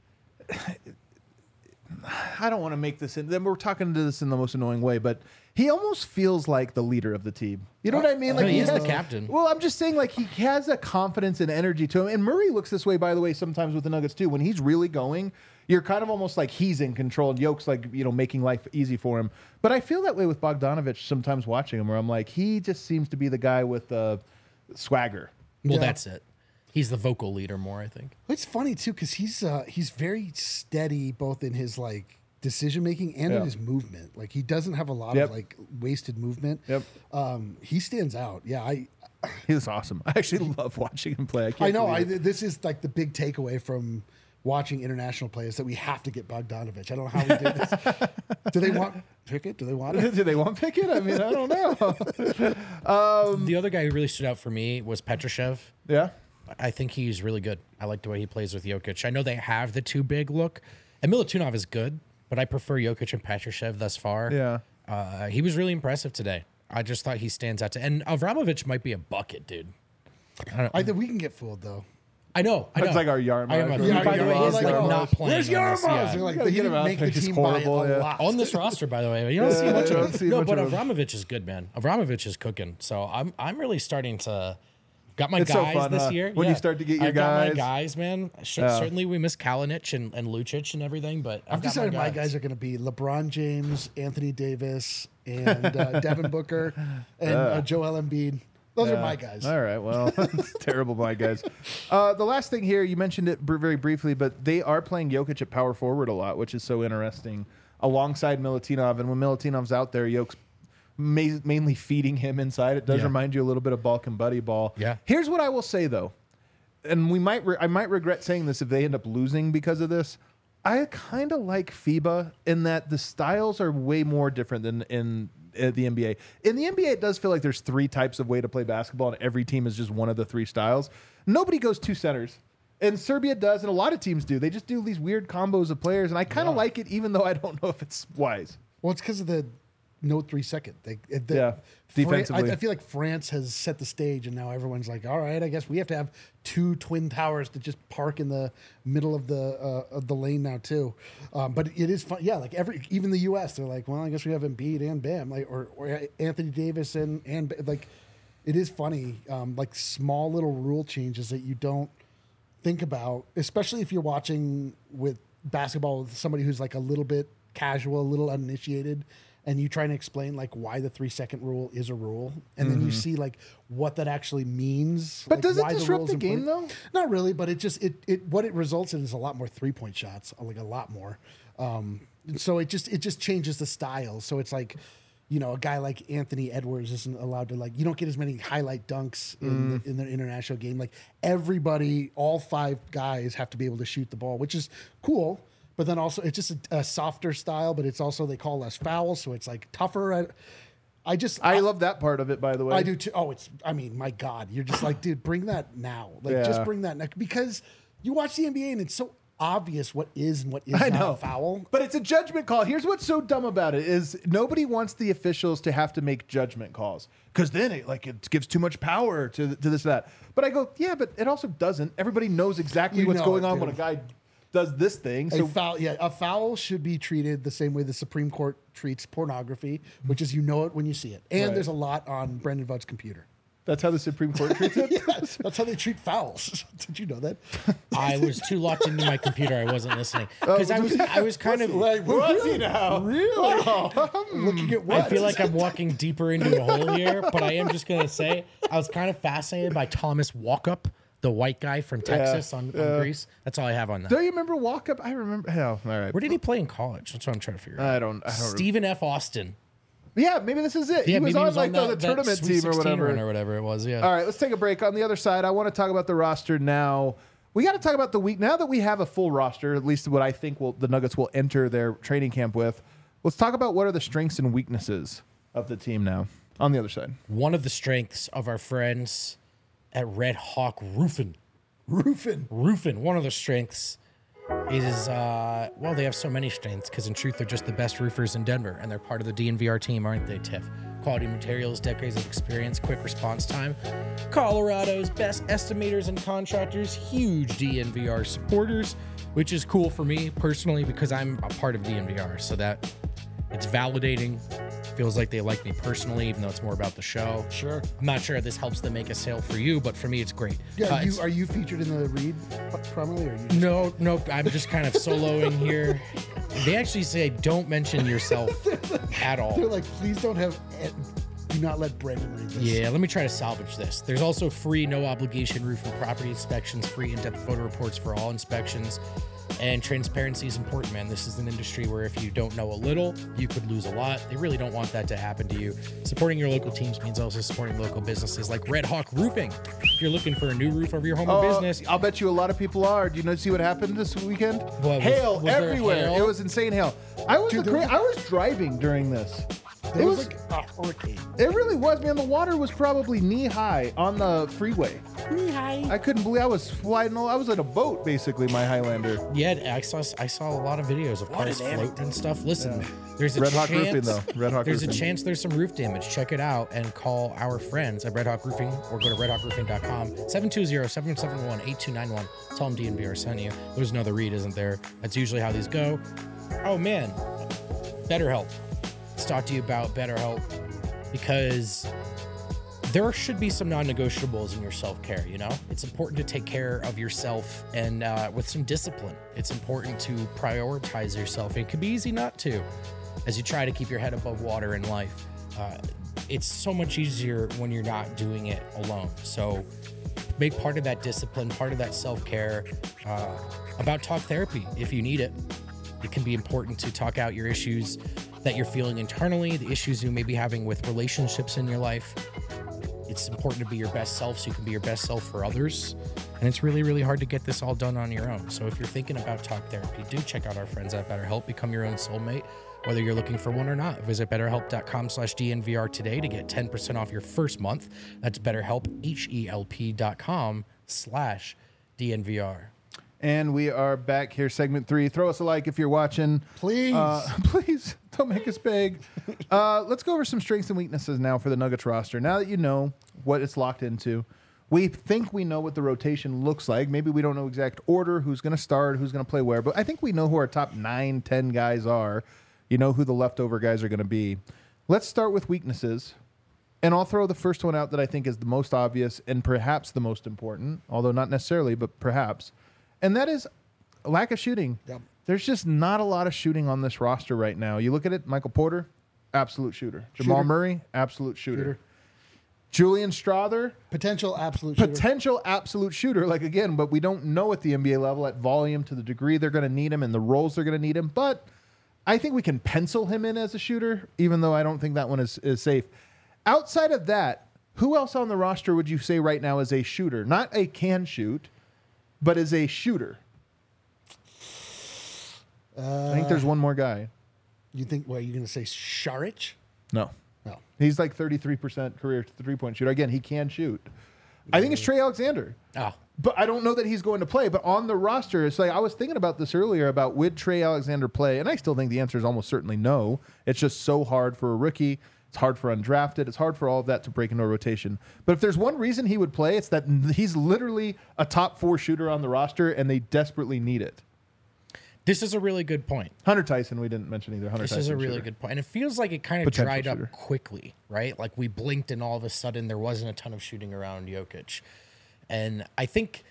I don't want to make this in then we're talking to this in the most annoying way, but he almost feels like the leader of the team. You know what I mean? Like No, he is has- the captain. Well, I'm just saying, like, he has a confidence and energy to him. And Murray looks this way, by the way, sometimes with the Nuggets too. When he's really going, you're kind of almost like he's in control, and Yoke's like, you know, making life easy for him. But I feel that way with Bogdanovic sometimes watching him, where I'm like, he just seems to be the guy with the swagger. Well, Yeah. that's it. He's the vocal leader more, I think. It's funny too because he's uh, he's very steady both in his like decision making and Yeah. in his movement. Like he doesn't have a lot Yep. of like wasted movement. Yep. Um, he stands out. Yeah, I He's awesome. I actually love watching him play. I, I can't know. I believe it. this is like the big takeaway from watching international players that we have to get Bogdanovic. I don't know how we did this. Do they want Pickett? Do they want it? Do they want Pickett? I mean, I don't know. The other guy who really stood out for me was Petrushev. Yeah. I think he's really good. I like the way he plays with Jokic. I know they have the two big look, and Milutinov is good, but I prefer Jokic and Petrushev thus far. Yeah. Uh, he was really impressive today. I just thought he stands out to, and Avramovich might be a bucket, dude. I don't, I think we can get fooled though. I know. I know. It's like our Yarmouth. I remember. Yeah, By the way, Yarmouth. he's like Like, oh, not playing. Where's on this, Yarmouth? yeah. They're like, Gotta he get him didn't out make there. the He's team horrible, by a yeah. lot. On this roster, by the way, you don't see Yeah, much I of don't it. see No, much but of him. Abramovich is good, man. Abramovich is cooking. So I'm I'm really starting to got my It's so guys fun, this huh? year. When you Yeah. start to get your I've got my guys. guys, man. Sh- Yeah. Certainly, we miss Kalinic and, and Lucic and everything, but I've I've got decided my guys. guys are going to be LeBron James, Anthony Davis, and uh, Devin Booker, and uh, Joel Embiid. Those Yeah. are my guys. All right. Well, it's terrible, my guys. Uh, the last thing here, you mentioned it br- very briefly, but they are playing Jokic at power forward a lot, which is so interesting, alongside Milutinov. And when Milutinov's out there, Jokic's ma- mainly feeding him inside. It does Yeah. remind you a little bit of Balkan Buddy Ball. Yeah. Here's what I will say, though, and we might re- I might regret saying this if they end up losing because of this. I kind of like FIBA in that the styles are way more different than in uh, the N B A. In the N B A, it does feel like there's three types of way to play basketball, and every team is just one of the three styles. Nobody goes two centers. And Serbia does, and a lot of teams do. They just do these weird combos of players, and I kind of Yeah. like it, even though I don't know if it's wise. Well, it's because of the no three second. They, it- the, Yeah, Fran- defensively. I, I feel like France has set the stage, and now everyone's like, "All right, I guess we have to have two twin towers to just park in the middle of the uh, of the lane now too." Um, but it is fun, yeah. Like every even the U S, they're like, "Well, I guess we have Embiid and Bam, like or, or Anthony Davis and and like." It is funny, um, like small little rule changes that you don't think about, especially if you're watching with basketball with somebody who's like a little bit casual, a little uninitiated, and you try to explain like why the three second rule is a rule, and then you see like what that actually means. But like, does it why the disrupt rule's the game, important. though? Not really, but it just it it what it results in is a lot more three point shots, like a lot more. Um, so it just it just changes the style. So it's like, you know, a guy like Anthony Edwards isn't allowed to, like, you don't get as many highlight dunks in, the, in the international game. Like everybody, all five guys have to be able to shoot the ball, which is cool. But then also it's just a, a softer style, but it's also, they call less fouls. So it's like tougher. I, I just, I love that part of it, by the way. I do too. Oh, it's, I mean, my God, you're just like, dude, bring that now. Like, Yeah. just bring that now. Because you watch the N B A and it's so obvious what is and what is I not know. a foul. But it's a judgment call. Here's what's so dumb about it is nobody wants the officials to have to make judgment calls because then it like it gives too much power to to this that. But I go, yeah, but it also doesn't. Everybody knows exactly You what's know going it, on when a dude. guy does this thing. A So foul, yeah, a foul should be treated the same way the Supreme Court treats pornography, which is you know it when you see it. And Right. there's a lot on Brendan Vought's computer. that's how the Supreme Court treats it. Yes, that's how they treat fouls. Did you know that? I was too locked into my computer. I wasn't listening because I was I was kind of. Like, Was he now? Really? Looking at what? I feel like I'm walking deeper into a hole here, but I am just gonna say I was kind of fascinated by Thomas Walkup, the white guy from Texas on, on Greece. That's all I have on that. Do you remember Walk Up? I remember. Hell, all right. Where did he play in college? That's what I'm trying to figure out. I don't. I don't. Stephen F. Austin. Yeah, maybe this is it. Yeah, he was maybe on he was like on the, that, the that tournament Sweet team or sixteen whatever. run or whatever it was. Yeah. All right, let's take a break. On the other side, I want to talk about the roster now. We got to talk about the week now that we have a full roster. At least what I think will the Nuggets will enter their training camp with. Let's talk about what are the strengths and weaknesses of the team now. On the other side, One of the strengths of our friends at Red Hawk Roofing. Roofing. Roofing. One of the strengths is, uh, well, they have so many strengths because in truth, they're just the best roofers in Denver and they're part of the D N V R team, aren't they, Tiff? Quality materials, decades of experience, quick response time. Colorado's best estimators and contractors, huge D N V R supporters, which is cool for me personally because I'm a part of D N V R. So that it's validating. Feels like they like me personally, even though it's more about the show. Sure. I'm not sure this helps them make a sale for you, but for me, it's great. Yeah, Uh, you, it's- are you featured in the read primarily? Or are you just, no, no, I'm just kind of soloing here. They actually say don't mention yourself at all. they're like, please don't have, do not let Brendan read this. Yeah, let me try to salvage this. There's also free, no obligation roof and property inspections, free in-depth photo reports for all inspections, and transparency is important, man. This is an industry where if you don't know a little, you could lose a lot. They really don't want that to happen to you. Supporting your local teams means also supporting local businesses like Red Hawk Roofing. If you're looking for a new roof over your home or Uh, business, I'll bet you a lot of people are. Do you know see what happened this weekend? was- hail was there everywhere. hail? It was insane hail. I was Dude, the there cra- was- I was driving during this. There It was, was- like a hurricane. It really was, man. The water was probably knee high on the freeway. Hi. I couldn't believe I was flying. I was in a boat, basically, my Highlander. Yeah, I saw I saw a lot of videos of cars floating and stuff. Listen, there's a Red Hawk chance Roofing, though. Red Hawk there's Roofing. a chance there's some roof damage. Check it out and call our friends at Red Hawk Roofing or go to red hawk roofing dot com. seven two zero, seven seven one, eight two nine one. Tell them D N V R sent you. There's another read, isn't there? That's usually how these go. Oh man, BetterHelp. Let's talk to you about BetterHelp because there should be some non-negotiables in your self-care. You know, it's important to take care of yourself and uh, with some discipline. It's important to prioritize yourself. It can be easy not to, as you try to keep your head above water in life. Uh, it's so much easier when you're not doing it alone. So, make part of that discipline, part of that self-care, uh, about talk therapy if you need it. It can be important to talk out your issues that you're feeling internally, the issues you may be having with relationships in your life. It's important to be your best self so you can be your best self for others. And it's really, really hard to get this all done on your own. So if you're thinking about talk therapy, do check out our friends at BetterHelp. Become your own soulmate, whether you're looking for one or not. Visit betterhelp.com slash DNVR today to get ten percent off your first month. That's betterhelp, H-E-L-P dot com slash DNVR. And we are back here, segment three. Throw us a like if you're watching. Please. Uh, please, don't make us beg. Uh, let's go over some strengths and weaknesses now for the Nuggets roster. Now that you know what it's locked into, we think we know what the rotation looks like. Maybe we don't know exact order, who's going to start, who's going to play where, but I think we know who our top nine, ten guys are. You know who the leftover guys are going to be. Let's start with weaknesses. And I'll throw the first one out that I think is the most obvious and perhaps the most important, although not necessarily, but perhaps. And that is lack of shooting. Yep. There's just not a lot of shooting on this roster right now. You look at it, Michael Porter, absolute shooter. Jamal Shooter. Murray, absolute shooter. Shooter. Julian Strother, Potential absolute shooter. potential absolute shooter. Like, again, but we don't know at the N B A level at volume to the degree they're going to need him and the roles they're going to need him. But I think we can pencil him in as a shooter, even though I don't think that one is, is safe. Outside of that, who else on the roster would you say right now is a shooter? Not a can shoot, but is a shooter. Uh, I think there's one more guy. You think, what, are you going to say Saric? No. No. He's like thirty-three percent career three-point shooter. Again, he can shoot. I think it's Trey Alexander. Oh, But I don't know that he's going to play. But on the roster, it's like I was thinking about this earlier about would Trey Alexander play? And I still think the answer is almost certainly no. It's just so hard for a rookie. It's hard for undrafted. It's hard for all of that to break into a rotation. But if there's one reason he would play, it's that he's literally a top four shooter on the roster, and they desperately need it. this is a really good point. Hunter Tyson, we didn't mention either. Hunter This Tyson is a really shooter. good point. And it feels like it kind of Potential dried shooter. up quickly, right? Like we blinked and all of a sudden there wasn't a ton of shooting around Jokic. And I think,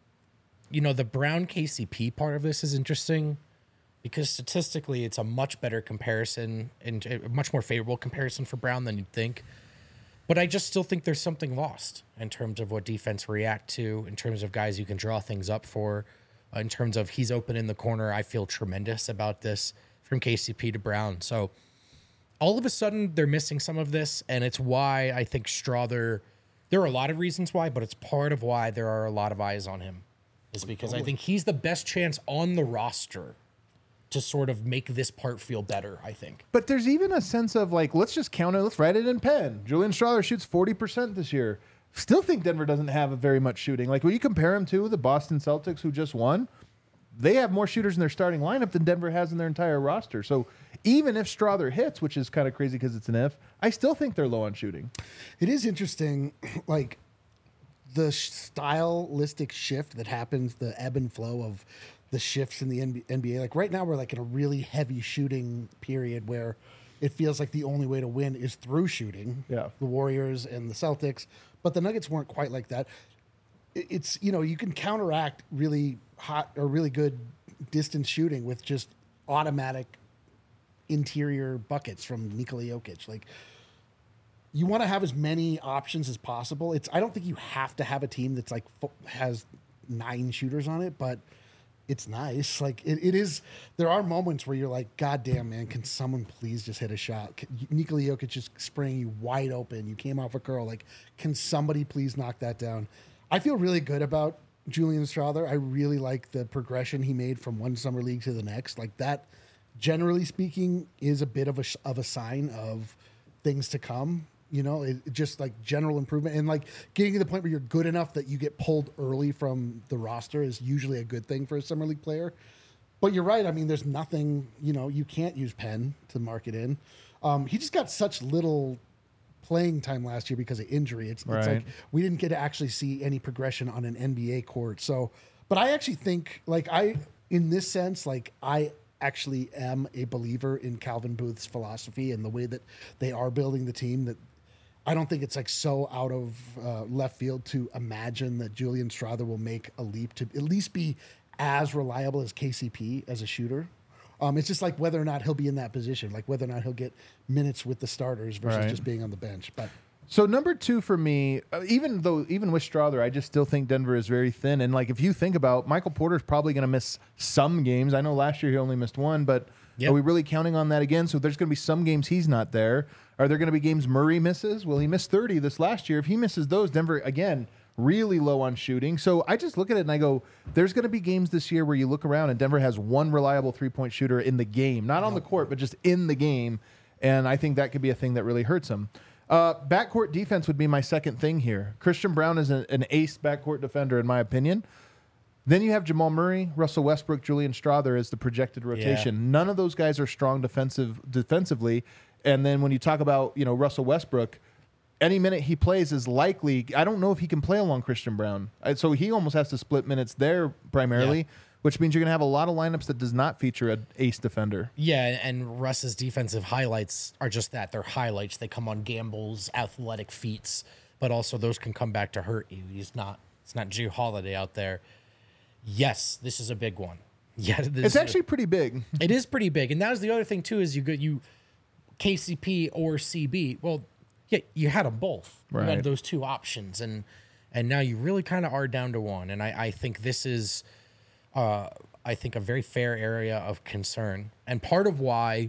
you know, the Brown K C P part of this is interesting because statistically it's a much better comparison and a much more favorable comparison for Brown than you'd think. But I just still think there's something lost in terms of what defense react to, in terms of guys you can draw things up for. Uh, in terms of he's open in the corner, I feel tremendous about this from K C P to Brown. So all of a sudden they're missing some of this, and it's why I think Strother, there are a lot of reasons why, but it's part of why there are a lot of eyes on him, is because I think he's the best chance on the roster to sort of make this part feel better, I think. But there's even a sense of like, let's just count it. Let's write it in pen. Julian Strother shoots forty percent this year. Still think Denver doesn't have a very much shooting. Like when you compare him to the Boston Celtics who just won, they have more shooters in their starting lineup than Denver has in their entire roster. So even if Strother hits, which is kind of crazy because it's an if, I still think they're low on shooting. It is interesting, like the sh- stylistic shift that happens, the ebb and flow of the shifts in the N B A. Like right now, we're like in a really heavy shooting period where it feels like the only way to win is through shooting. Yeah. The Warriors and the Celtics, but the Nuggets weren't quite like that. It- It's, you know, you can counteract really hot or really good distance shooting with just automatic interior buckets from Nikola Jokic. Like, you want to have as many options as possible. It's I don't think you have to have a team that's like fo- has nine shooters on it, but it's nice. Like it, it is. There are moments where you're like, God damn, man, can someone please just hit a shot? Can, Nikola Jokic is spraying you wide open. You came off a curl. Like, can somebody please knock that down? I feel really good about Julian Strother. I really like the progression he made from one summer league to the next. Like that, generally speaking, is a bit of a sh- of a sign of things to come. You know, it, it just like general improvement and like getting to the point where you're good enough that you get pulled early from the roster is usually a good thing for a summer league player. But you're right. I mean, there's nothing, you know, you can't use Penn to mark it in. Um, he just got such little playing time last year because of injury. It's, Right. it's like we didn't get to actually see any progression on an N B A court. So, but I actually think like I, in this sense, like I actually am a believer in Calvin Booth's philosophy and the way that they are building the team that I don't think it's like so out of uh, left field to imagine that Julian Strawther will make a leap to at least be as reliable as K C P as a shooter. Um, it's just like whether or not he'll be in that position, like whether or not he'll get minutes with the starters versus Right. just being on the bench. But So number two for me, uh, even though even with Strawther, I just still think Denver is very thin. And like if you think about Michael Porter's probably going to miss some games. I know last year he only missed one, but Yep. are we really counting on that again? So there's going to be some games he's not there. Are there going to be games Murray misses? Well, he missed thirty this last year. If he misses those, Denver again really low on shooting. So I just look at it and I go, there's going to be games this year where you look around and Denver has one reliable three point shooter in the game, not on the court, but just in the game. And I think that could be a thing that really hurts him. Uh, backcourt defense would be my second thing here. Christian Brown is a, an ace backcourt defender, in my opinion. Then you have Jamal Murray, Russell Westbrook, Julian Strawther as the projected rotation. Yeah. None of those guys are strong defensive defensively. And then when you talk about you know Russell Westbrook, any minute he plays is likely. I don't know if he can play along Christian Brown, I- so he almost has to split minutes there primarily, Yeah. which means you're going to have a lot of lineups that does not feature an ace defender. Yeah, and Russ's defensive highlights are just that. They're highlights. They come on gambles, athletic feats, but also those can come back to hurt you. He's not it's not Drew Holiday out there. Yes, this is a big one. Yeah, this It's is a- actually pretty big. it is pretty big. And that was the other thing too, is you get you K C P or C B. Well, yeah, you had them both. You Right. had those two options, and and now you really kind of are down to one. And I, I think this is uh, I think a very fair area of concern. And part of why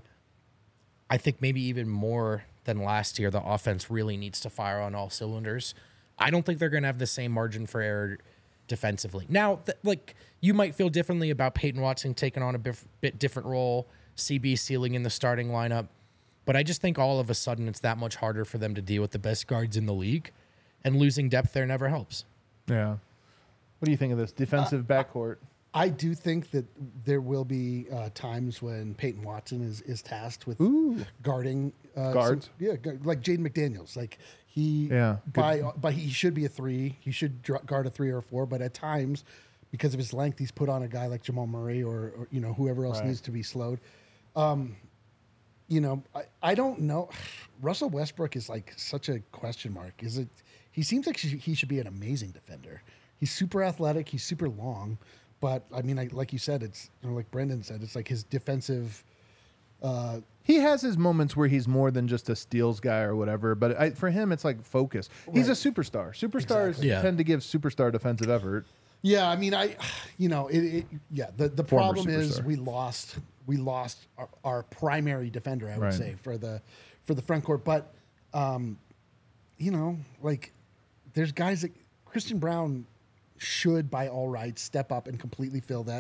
I think maybe even more than last year, the offense really needs to fire on all cylinders. I don't think they're going to have the same margin for error defensively. Now, th- like you might feel differently about Peyton Watson taking on a bif- bit different role, C B sealing in the starting lineup, but I just think all of a sudden it's that much harder for them to deal with the best guards in the league, and losing depth there never helps. Yeah. What do you think of this defensive backcourt? I do think that there will be uh, times when Peyton Watson is, is tasked with Ooh. guarding uh, Guards? some- yeah, gu- like Jaden McDaniels. Like he, Yeah, good. by by he should be a three. He should dr- guard a three or a four. But at times, because of his length, he's put on a guy like Jamal Murray or, or you know whoever else Right. needs to be slowed. Um, you know, I, I don't know. Russell Westbrook is like such a question mark. Is it? He seems like he he should be an amazing defender. He's super athletic. He's super long. But I mean, I, like you said, it's you know, like Brendan said, it's like his defensive. Uh, He has his moments where he's more than just a steals guy or whatever, but I, for him, it's like focus. He's a Right. superstar. Superstars Exactly. Yeah. tend to give superstar defensive effort. yeah, I mean, I, you know, it. it yeah, the the Former problem is superstar. we lost we lost our, our primary defender. I would Right. say for the for the front court, but um, you know, like there's guys that Christian Brown should by all rights step up and completely fill that.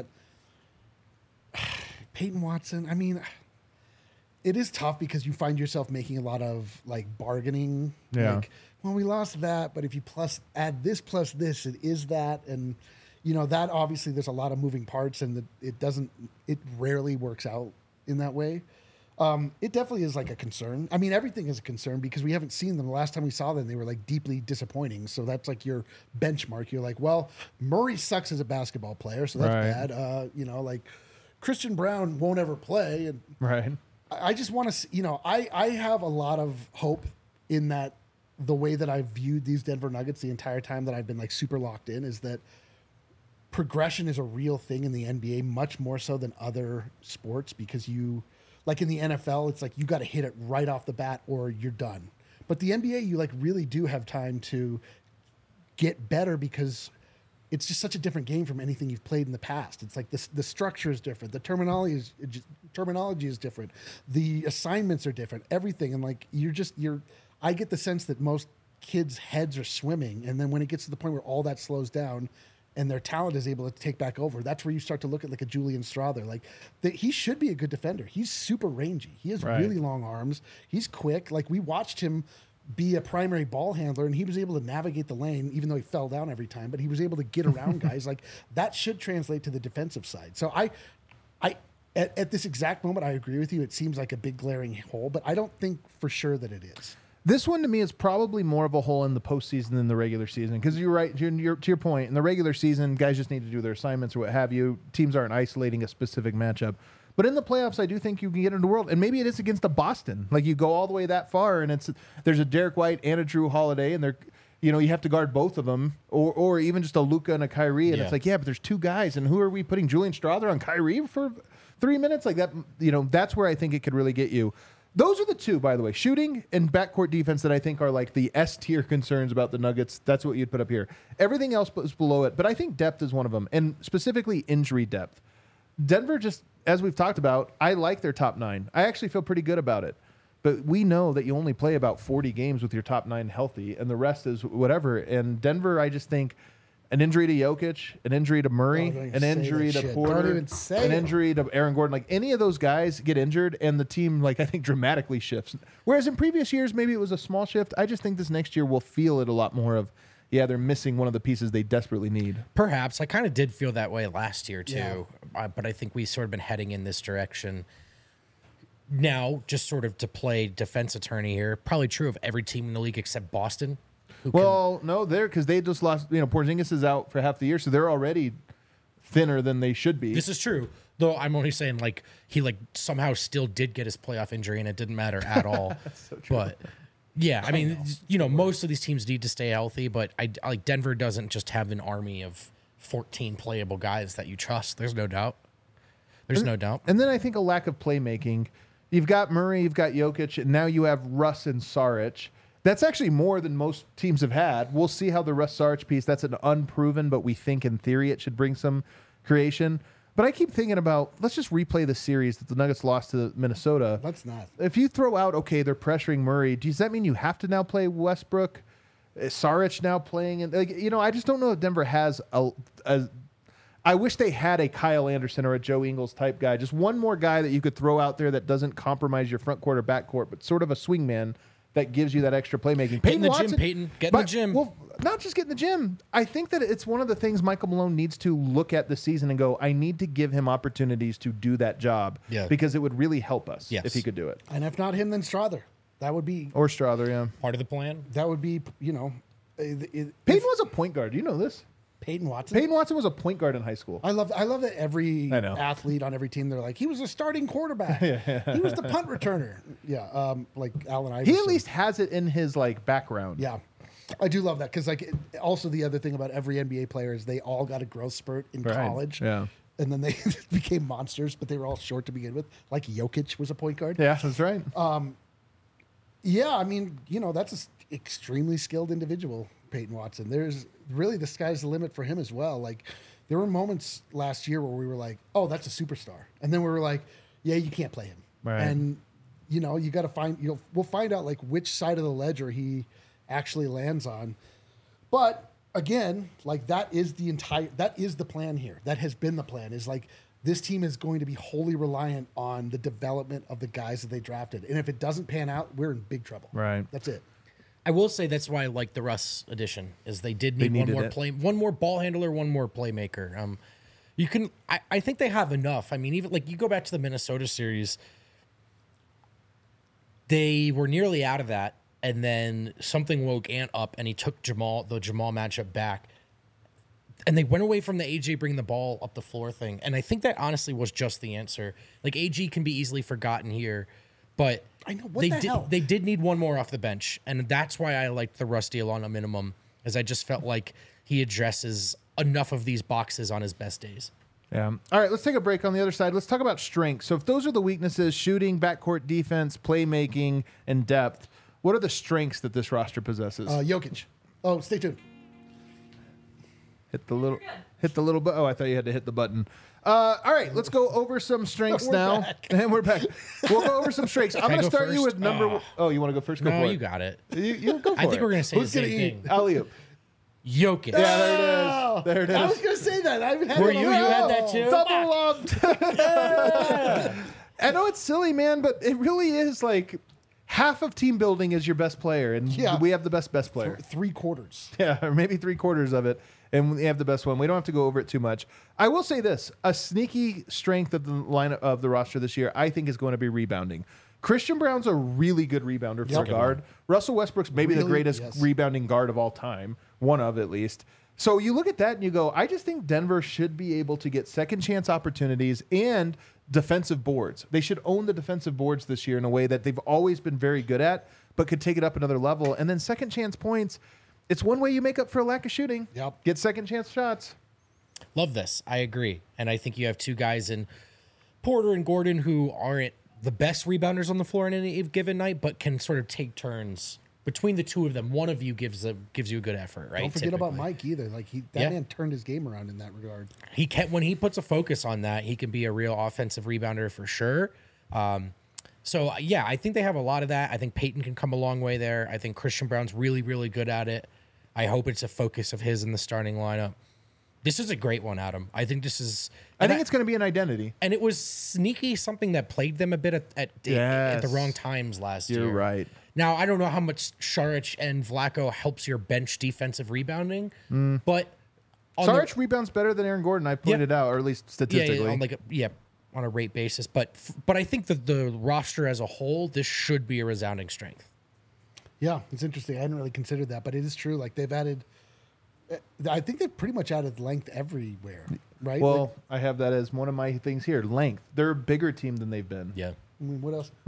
Peyton Watson, I mean. It is tough because you find yourself making a lot of like bargaining. Yeah. Like, well, we lost that, but if you plus add this plus this, it is that, and you know that obviously there's a lot of moving parts, and the, it doesn't. It rarely works out in that way. Um, it definitely is like a concern. I mean, everything is a concern because we haven't seen them. The last time we saw them, they were like deeply disappointing. So that's like your benchmark. You're like, well, Murray sucks as a basketball player, so that's Right. bad. Uh, you know, like Christian Brown won't ever play, and Right. I just want to, you know, I, I have a lot of hope in that the way that I've viewed these Denver Nuggets the entire time that I've been like super locked in is that progression is a real thing in the N B A, much more so than other sports because you, like in the N F L, it's like you got to hit it right off the bat or you're done. But the N B A, you like really do have time to get better because it's just such a different game from anything you've played in the past. It's like this, the structure is different. The terminology is just, terminology is different. The assignments are different. Everything. And like, you're just, you're, I get the sense that most kids' heads are swimming. And then when it gets to the point where all that slows down and their talent is able to take back over, that's where you start to look at like a Julian Strother. Like that, he should be a good defender. He's super rangy. He has Right. really long arms. He's quick. Like we watched him be a primary ball handler, and he was able to navigate the lane, even though he fell down every time. But he was able to get around guys. Like that should translate to the defensive side. So I, I at, at this exact moment, I agree with you. It seems like a big glaring hole, but I don't think for sure that it is. This one to me is probably more of a hole in the postseason than the regular season because you're right. You're, you're, to your point, in the regular season, guys just need to do their assignments or what have you. Teams aren't isolating a specific matchup. But in the playoffs, I do think you can get into the world, and maybe it is against a Boston. Like you go all the way that far, and it's there's a Derek White and a Drew Holiday, and they're you know you have to guard both of them, or or even just a Luka and a Kyrie, and Yeah. it's like yeah, but there's two guys, and who are we putting Julian Strother on Kyrie for three minutes like that? You know that's where I think it could really get you. Those are the two, by the way, shooting and backcourt defense that I think are like the S tier concerns about the Nuggets. That's what you'd put up here. Everything else is below it, but I think depth is one of them, and specifically injury depth. Denver just, as we've talked about, I like their top nine. I actually feel pretty good about it. But we know that you only play about forty games with your top nine healthy, and the rest is whatever. And Denver, I just think an injury to Jokic, an injury to Murray, Oh, don't even an say injury that to shit. Porter, Don't even say an it. injury to Aaron Gordon, like any of those guys get injured, and the team, like I think, dramatically shifts. Whereas in previous years, maybe it was a small shift. I just think this next year we'll feel it a lot more of, yeah, they're missing one of the pieces they desperately need. Perhaps. I kind of did feel that way last year, too. Yeah. Uh, but I think we sort of been heading in this direction. Now, just sort of to play defense attorney here, probably true of every team in the league except Boston. Who can- Well, no, they're because they just lost. You know, Porzingis is out for half the year, so they're already thinner than they should be. this is true. Though I'm only saying, like, he, like, somehow still did get his playoff injury, and it didn't matter at all. But, yeah, I mean, you know, most of these teams need to stay healthy, but, I like, Denver doesn't just have an army of fourteen playable guys that you trust. There's no doubt. There's no doubt. And then I think a lack of playmaking. You've got Murray, you've got Jokic, and now you have Russ and Saric. That's actually more than most teams have had. We'll see how the Russ Saric piece, that's an unproven, but we think in theory it should bring some creation. But I keep thinking about, let's just replay the series that the Nuggets lost to Minnesota. Let's not. If you throw out, okay, they're pressuring Murray, does that mean you have to now play Westbrook? Is Saric now playing? And like, you know, I just don't know if Denver has a, a I wish they had a Kyle Anderson or a Joe Ingles type guy. Just one more guy that you could throw out there that doesn't compromise your front court or back court, but sort of a swingman that gives you that extra playmaking. Get in the gym, Peyton. Get in the gym. Well, not just get in the gym. I think that it's one of the things Michael Malone needs to look at this season and go, I need to give him opportunities to do that job. Yeah. Because it would really help us Yes. if he could do it. And if not him, then Strother. That would be, Or Strother, yeah. Part of the plan. that would be, you know, it, it, Peyton was a point guard. Do you know this? Peyton Watson. Peyton Watson was a point guard in high school. I love I love that every I know. athlete on every team, they're like, he was a starting quarterback. He was the punt returner. Yeah, um, like Allen Iverson. He at least has it in his like background. Yeah. I do love that because like it, also the other thing about every N B A player is they all got a growth spurt in Right. college. Yeah. And then they became monsters, but they were all short to begin with. Like Jokic was a point guard. Yeah, that's right. Yeah, I mean, you know, that's an extremely skilled individual, Peyton Watson. There's really the sky's the limit for him as well. Like, there were moments last year where we were like, oh, that's a superstar. And then we were like, yeah, you can't play him. Right. And, you know, you got to find, you know, we'll find out like which side of the ledger he actually lands on. But again, like that is the entire, that is the plan here. That has been the plan is like, this team is going to be wholly reliant on the development of the guys that they drafted. And if it doesn't pan out, we're in big trouble. Right. That's it. I will say that's why I like the Russ edition is they did They need one needed more it. play, one more ball handler, one more playmaker. Um, you can, I, I think they have enough. I mean, even like you go back to the Minnesota series, they were nearly out of that, and then something woke Ant up, and he took Jamal the Jamal matchup back, and they went away from the A J bringing the ball up the floor thing, and I think that honestly was just the answer. Like A G can be easily forgotten here, but I know, what they the did. hell? They did need one more off the bench, and that's why I liked the Russ deal on a minimum, as I just felt like he addresses enough of these boxes on his best days. Yeah. All right, let's take a break on the other side. Let's talk about strengths. So if those are the weaknesses, shooting, backcourt defense, playmaking, and depth, what are the strengths that this roster possesses? Uh, Jokic. Oh, stay tuned. hit the little hit the little button. Oh, I thought you had to hit the button. Uh, all right, let's go over some strengths We're now. back. And we're back. We'll go over some strengths. I'm I going to go start you first? with number Oh. one. Oh, you want to go first? Go No, for it. you got it. You, you go for I think it. we're going to say Who's the gonna same eat? thing. Alley-oop. Jokic. Yeah, there it is. Oh, There it I is. was going to say that. I haven't had Were it on you? my- You had that Oh. too? Double lumped. I know it's silly, man, but it really is like half of team building is your best player, and Yeah. we have the best best player. Three quarters. Yeah, or maybe three quarters of it, and we have the best one. We don't have to go over it too much. I will say this: a sneaky strength of the line of the roster this year, I think, is going to be rebounding. Christian Brown's a really good rebounder for Yep. a guard. Russell Westbrook's maybe the Really? greatest Yes. rebounding guard of all time, one of at least. So you look at that and you go, I just think Denver should be able to get second chance opportunities and defensive boards. They should own the defensive boards this year in a way that they've always been very good at, but could take it up another level. And then second chance points, it's one way you make up for a lack of shooting. Yep. Get second chance shots. Love this. I agree. And I think you have two guys in Porter and Gordon who aren't the best rebounders on the floor in any given night, but can sort of take turns between the two of them. One of you gives a gives you a good effort, right? Don't forget about Typically. Mike either. Like he, that Yeah. man turned his game around in that regard. He can when he puts a focus on that, he can be a real offensive rebounder for sure. Um, so yeah, I think they have a lot of that. I think Peyton can come a long way there. I think Christian Brown's really, really good at it. I hope it's a focus of his in the starting lineup. This is a great one, Adam. I think this is. I and think it's going to be an identity. and it was sneaky something that plagued them a bit at at, at the Yes. wrong times last year. You're right. Now I don't know how much Saric and Vlaco helps your bench defensive rebounding, but on the- Saric rebounds better than Aaron Gordon, I pointed out, or at least yeah, statistically. yeah, on like a, yeah, on a rate basis. But f- but I think that the roster as a whole, this should be a resounding strength. Yeah, it's interesting. I hadn't really considered that, but it is true. Like they've added, I think they've pretty much added length everywhere, right? well, Like, I have that as one of my things here. Length. They're a bigger team than they've been. Yeah. I mean, what else?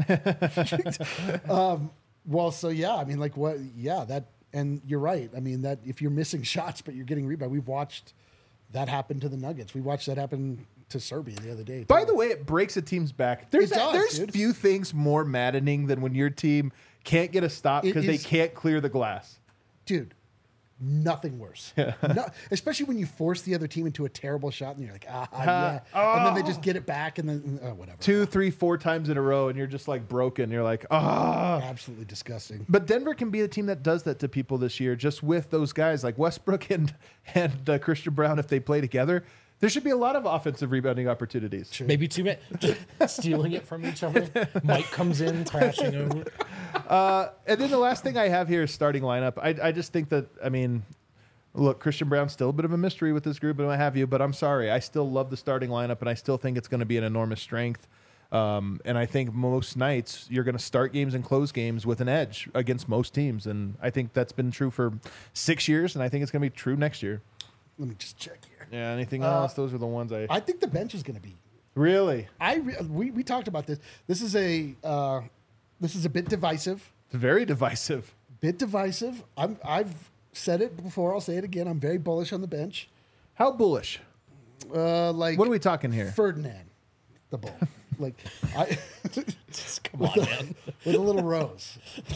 um, well, so yeah, I mean, like what? Yeah, that, and you're right. I mean, that if you're missing shots but you're getting rebound, we've watched that happen to the Nuggets. We watched that happen to Serbia the other day. By too. the way, it breaks a team's back. There's It does, there's dude. few things more maddening than when your team can't get a stop It because they is- can't clear the glass. dude, nothing worse. No, especially when you force the other team into a terrible shot and you're like, ah, yeah, and then they just get it back and then oh, whatever. Two, three, four times in a row, and you're just like broken. You're like, ah. Absolutely disgusting. But Denver can be a team that does that to people this year, just with those guys like Westbrook and and uh, Christian Brown. If they play together, there should be a lot of offensive rebounding opportunities. Maybe two minutes stealing it from each other. Mike comes in crashing over. And then the last thing I have here is starting lineup. I, I just think that, I mean, look, Christian Brown's still a bit of a mystery with this group and what have you, but I'm sorry. I still love the starting lineup, and I still think it's going to be an enormous strength. Um, and I think most nights you're going to start games and close games with an edge against most teams. And I think that's been true for six years, and I think it's going to be true next year. Let me just check here. Yeah, anything Uh, else? Those are the ones I... I think the bench is going to be. Really? I re- we we talked about this. This is a uh, this is a bit divisive. It's very divisive. Bit divisive. I'm I've said it before. I'll say it again. I'm very bullish on the bench. How bullish? Uh, like What are we talking here? Ferdinand, the bull. Like I. Come on, man. with a little rose.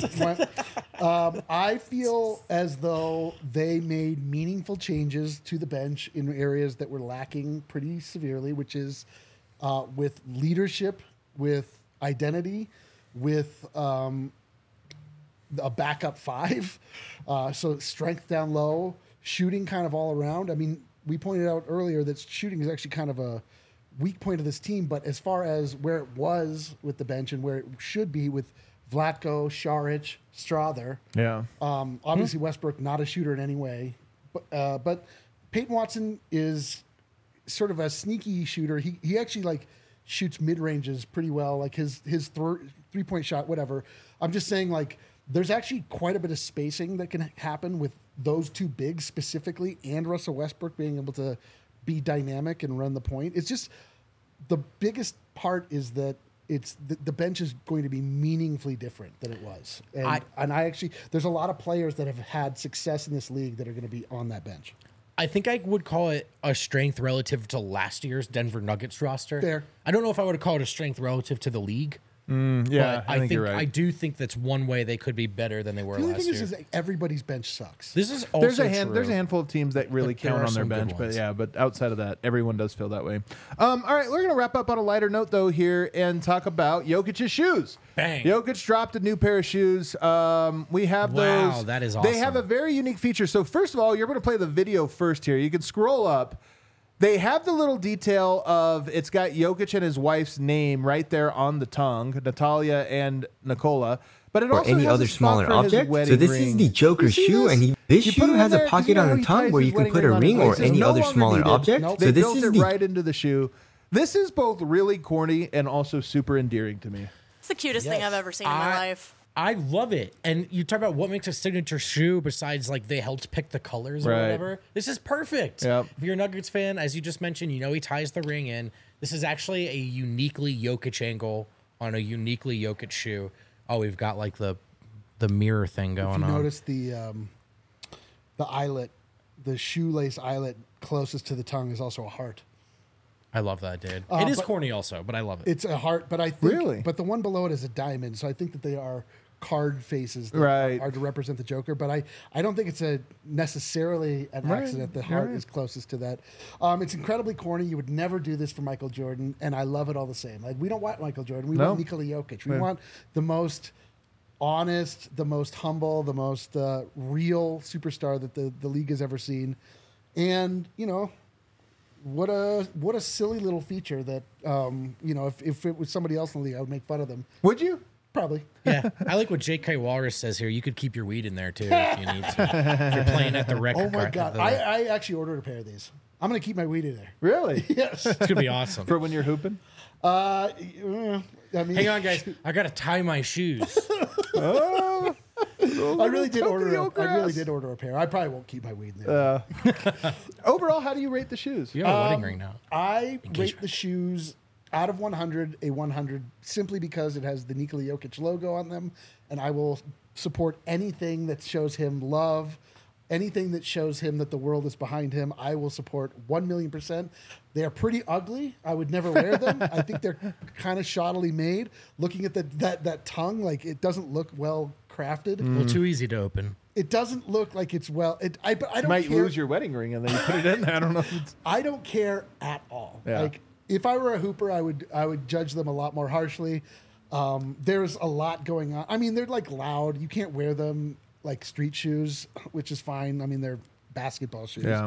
um, I feel as though they made meaningful changes to the bench in areas that were lacking pretty severely, which is uh, with leadership, with identity, with um, a backup five. Uh, so strength down low, shooting kind of all around. I mean, we pointed out earlier that shooting is actually kind of a weak point of this team, but as far as where it was with the bench and where it should be with Vlatko, Saric, Strother, Yeah. um, obviously Westbrook not a shooter in any way, but uh, but Peyton Watson is sort of a sneaky shooter. He he actually like shoots mid ranges pretty well, like his his th- three point shot, whatever. I'm just saying like there's actually quite a bit of spacing that can happen with those two bigs specifically, and Russell Westbrook being able to be dynamic and run the point. It's just the biggest part is that it's the, the bench is going to be meaningfully different than it was. And I- and I actually there's a lot of players that have had success in this league that are going to be on that bench. I think I would call it a strength relative to last year's Denver Nuggets roster. Fair. I don't know if I would call it a strength relative to the league. Yeah, But I, I, think, think you're right. I do think that's one way they could be better than they were The only last thing year. is, is that everybody's bench sucks. This is also there's a hand, true. there's a handful of teams that really But there count are on their some good bench, but ones. yeah, but outside of that, everyone does feel that way. Um, all right, we're gonna wrap up on a lighter note though here and talk about Jokic's shoes. Bang. Jokic dropped a new pair of shoes. Um, we have Wow, those. that is They have a awesome. very unique feature. So first of all, you're going to play the video first here. You can scroll up. They have the little detail of it's got Jokic and his wife's name right there on the tongue, Natalia and Nicola. But it or also any has other a spot smaller for his object. wedding So this ring. is the Joker You see shoe, this? and he, this You put shoe it in has there, a 'cause pocket you know on how the he tongue ties where his you can wedding put a on his ring or waist? It's any no other longer smaller needed. object. Nope. They So this built is it the right into the shoe. This is both really corny and also super endearing to me. It's the cutest thing Yes. I've ever seen in my I- life. I love it. And you talk about what makes a signature shoe besides like they helped pick the colors or Right. whatever. This is perfect. Yep. If you're a Nuggets fan, as you just mentioned, you know he ties the ring in. This is actually a uniquely Jokic angle on a uniquely Jokic shoe. Oh, we've got like the the mirror thing going If you on. notice the um, the eyelet, the shoelace eyelet closest to the tongue is also a heart. I love that, dude. Uh, it is but- corny also, but I love it. It's a heart, but I think, Really? but the one below it is a diamond. So I think that they are card faces that Right. are to represent the Joker. But I, I don't think it's a necessarily an Right. accident. The heart Right. is closest to that. Um, it's incredibly corny. You would never do this for Michael Jordan, and I love it all the same. Like we don't want Michael Jordan. We No. want Nikola Jokic. We Yeah. want the most honest, the most humble, the most uh, real superstar that the, the league has ever seen. And you know, what a what a silly little feature that um, you know if, if it was somebody else in the league, I would make fun of them. Would you? Probably. yeah, I like what J K Walrus says here. You could keep your weed in there too if you need to. If you're playing at the rec. Oh my car- god! the- I, I actually ordered a pair of these. I'm gonna keep my weed in there. Really? Yes. it's gonna be awesome. For when you're hooping? Uh, uh, I mean, Hang on, guys. I gotta tie my shoes. Oh. I really did order. A, Tokyo I really grass. did order a pair. I probably won't keep my weed in there. Uh, overall, how do you rate the shoes? You have a wedding Um, ring now. I rate Engagement. the shoes out of one hundred a one hundred simply because it has the Nikola Jokic logo on them, and I will support anything that shows him love, anything that shows him that the world is behind him. I will support one million percent. They are pretty ugly. I would never wear them. I think they're kind of shoddily made. Looking at the, that that tongue, like it doesn't look well crafted. A little too easy to open. It doesn't look like it's well. It, I, but I You don't might care. lose your wedding ring and then you put it in there. I don't know. If it's, I don't care at all. Yeah. Like if I were a hooper, I would I would judge them a lot more harshly. Um, there's a lot going on. I mean, they're like loud. You can't wear them like street shoes, which is fine. I mean, they're basketball shoes. yeah.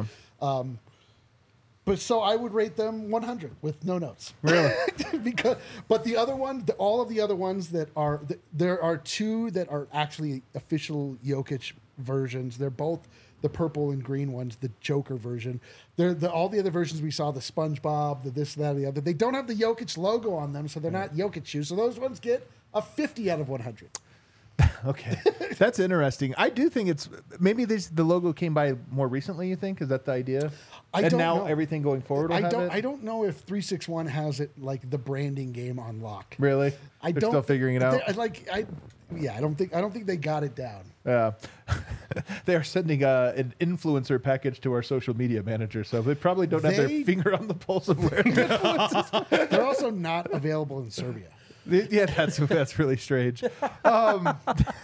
But so I would rate them one hundred with no notes. Really? because, but the other one, the, all of the other ones that are, th- there are two that are actually official Jokic versions. They're both the purple and green ones, the Joker version. They're the, all the other versions we saw, the SpongeBob, the this, that, or the other. They don't have the Jokic logo on them, so they're not Jokic shoes. So those ones get a fifty out of one hundred. Okay. That's interesting. I do think it's maybe this the logo came by more recently, you think? Is that the idea? I and don't now know. everything going forward will I have don't. it? I don't know if three six one has it like the branding game on lock. Really? I They're don't. still figuring it out. they're- Like I, yeah, I don't think. I don't think they got it down. Yeah. They are sending uh, an influencer package to our social media manager, so they probably don't have They- their finger on the pulse of where influencers. They're also not available in Serbia. Yeah, that's that's really strange. Um,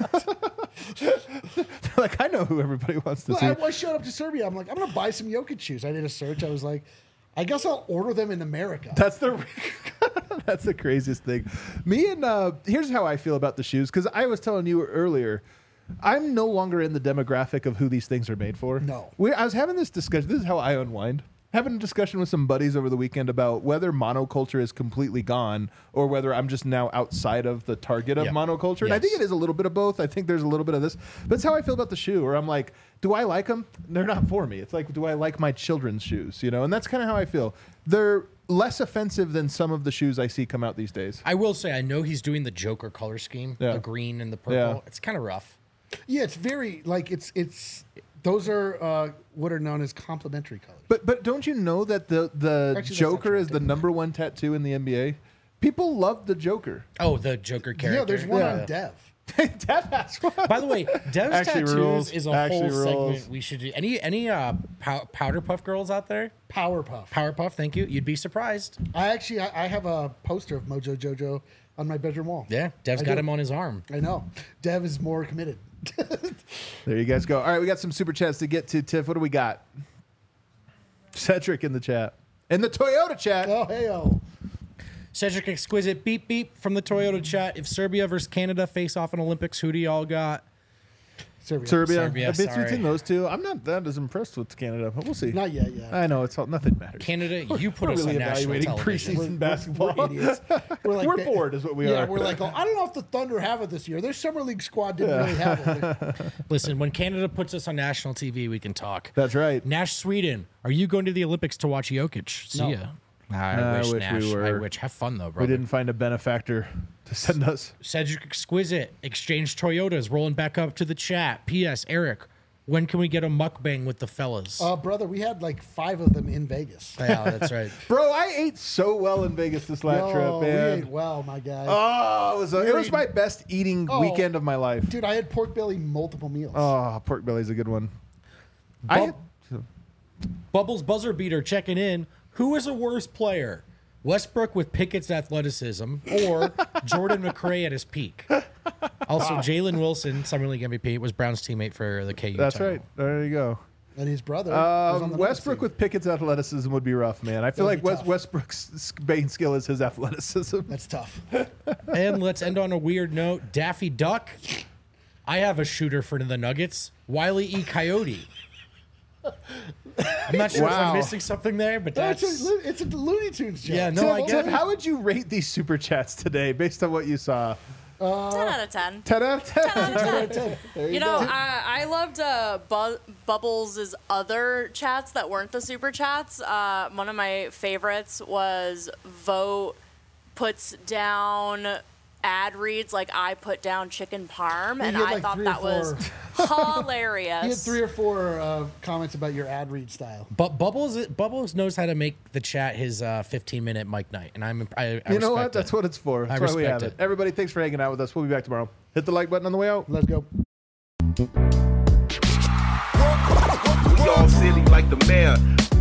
like I know who everybody wants to Well, see. I, I showed up to Serbia. I'm like, I'm gonna buy some Jokic shoes. I did a search. I was like, I guess I'll order them in America. That's the that's the craziest thing. Me and uh, here's how I feel about the shoes because I was telling you earlier. I'm no longer in the demographic of who these things are made for. No. we, I was having this discussion. This is how I unwind. Having a discussion with some buddies over the weekend about whether monoculture is completely gone or whether I'm just now outside of the target of Yep. monoculture. And I think Yes. it is a little bit of both. I think there's a little bit of this. But it's how I feel about the shoe where I'm like, do I like them? They're not for me. It's like, do I like my children's shoes? You know, and that's kind of how I feel. They're less offensive than some of the shoes I see come out these days. I will say, I know he's doing the Joker color scheme, Yeah. the green and the purple. Yeah. It's kind of rough. Yeah, it's very like it's it's. Those are uh, what are known as complementary colors. But but don't you know that the the Actually, that's not Joker true. is the number one tattoo in the N B A? People love the Joker. Oh, the Joker character. Yeah, there's one Yeah. on Dev. Dev has one. By the way, Dev's Actually tattoos rules. is a Actually whole rules. segment we should do. Any any uh pow- powder puff girls out there? Powerpuff. Powerpuff, thank you. You'd be surprised. I actually I, I have a poster of Mojo Jojo on my bedroom wall. Yeah, Dev's I got do. him on his arm. I know. Dev is more committed. There you guys go. All right, we got some super chats to get to. Tiff, what do we got? Cedric in the chat. In the Toyota chat. Oh, hey, oh. Cedric Exquisite, beep beep from the Toyota chat. If Serbia versus Canada face off in Olympics, who do y'all got? Serbia. Serbia. Serbia, It's sorry. between those two. I'm not that as impressed with Canada, but we'll see. Not yet, yeah. I know it's all, nothing matters. Canada, you put We're us really on national evaluating television. preseason basketball. We're idiots. We're, like, We're ba- bored, is what we yeah, are. we're like, oh, I don't know if the Thunder have it this year. Their summer league squad didn't really have it. Listen, when Canada puts us on national T V, we can talk. That's right. Nash Sweden, are you going to the Olympics to watch Jokic? See No. ya. I, I wish, wish we Nash. were. I wish. Have fun though, We brother. didn't find a benefactor to send us. Cedric Exquisite, Exchange Toyotas, rolling back up to the chat. P S. Eric, when can we get a mukbang with the fellas? Uh, brother, we had like five of them in Vegas. yeah, that's right. Bro, I ate so well in Vegas this last Yo, trip, we man. ate well, my guy. Oh, it was, a, it was my best eating Oh. weekend of my life. Dude, I had pork belly multiple meals. Oh, pork belly's a good one. Bub- I, Bubbles Buzzer Beater checking in. Who is a worse player? Westbrook with Pickett's athleticism or Jordan McRae at his peak? Also, Jalen Wilson, Summer League M V P, was Brown's teammate for the K U that's title. right. There you go. And his brother was on Um, the Westbrook Nuggets with Pickett's athleticism would be rough, man. I feel It'd like be West, tough. Westbrook's s- main skill is his athleticism. team. That's tough. And let's end on a weird note. Daffy Duck. I have a shooter for the Nuggets. Wiley E. Coyote. I'm not sure if Wow. I'm missing something there, but that's... It's a, it's a Looney Tunes joke. Yeah, no, Tiff, I get Tiff, it. how would you rate these super chats today based on what you saw? ten out of ten. ten out of ten. ten out of ten. There You know, I, I loved uh, Bu- Bubbles' other chats that weren't the super chats. Uh, one of my favorites was Vote puts down ad reads like I put down chicken parm, and had, I like, thought three or that was hilarious. He had three or four uh, comments about your ad read style. But Bubbles Bubbles knows how to make the chat his uh, fifteen minute mic night, and I'm I, I You know respect what? it. That's what it's for. That's I why we have respect it. it. Everybody, thanks for hanging out with us. We'll be back tomorrow. Hit the like button on the way out. Let's go. We all silly like the mayor.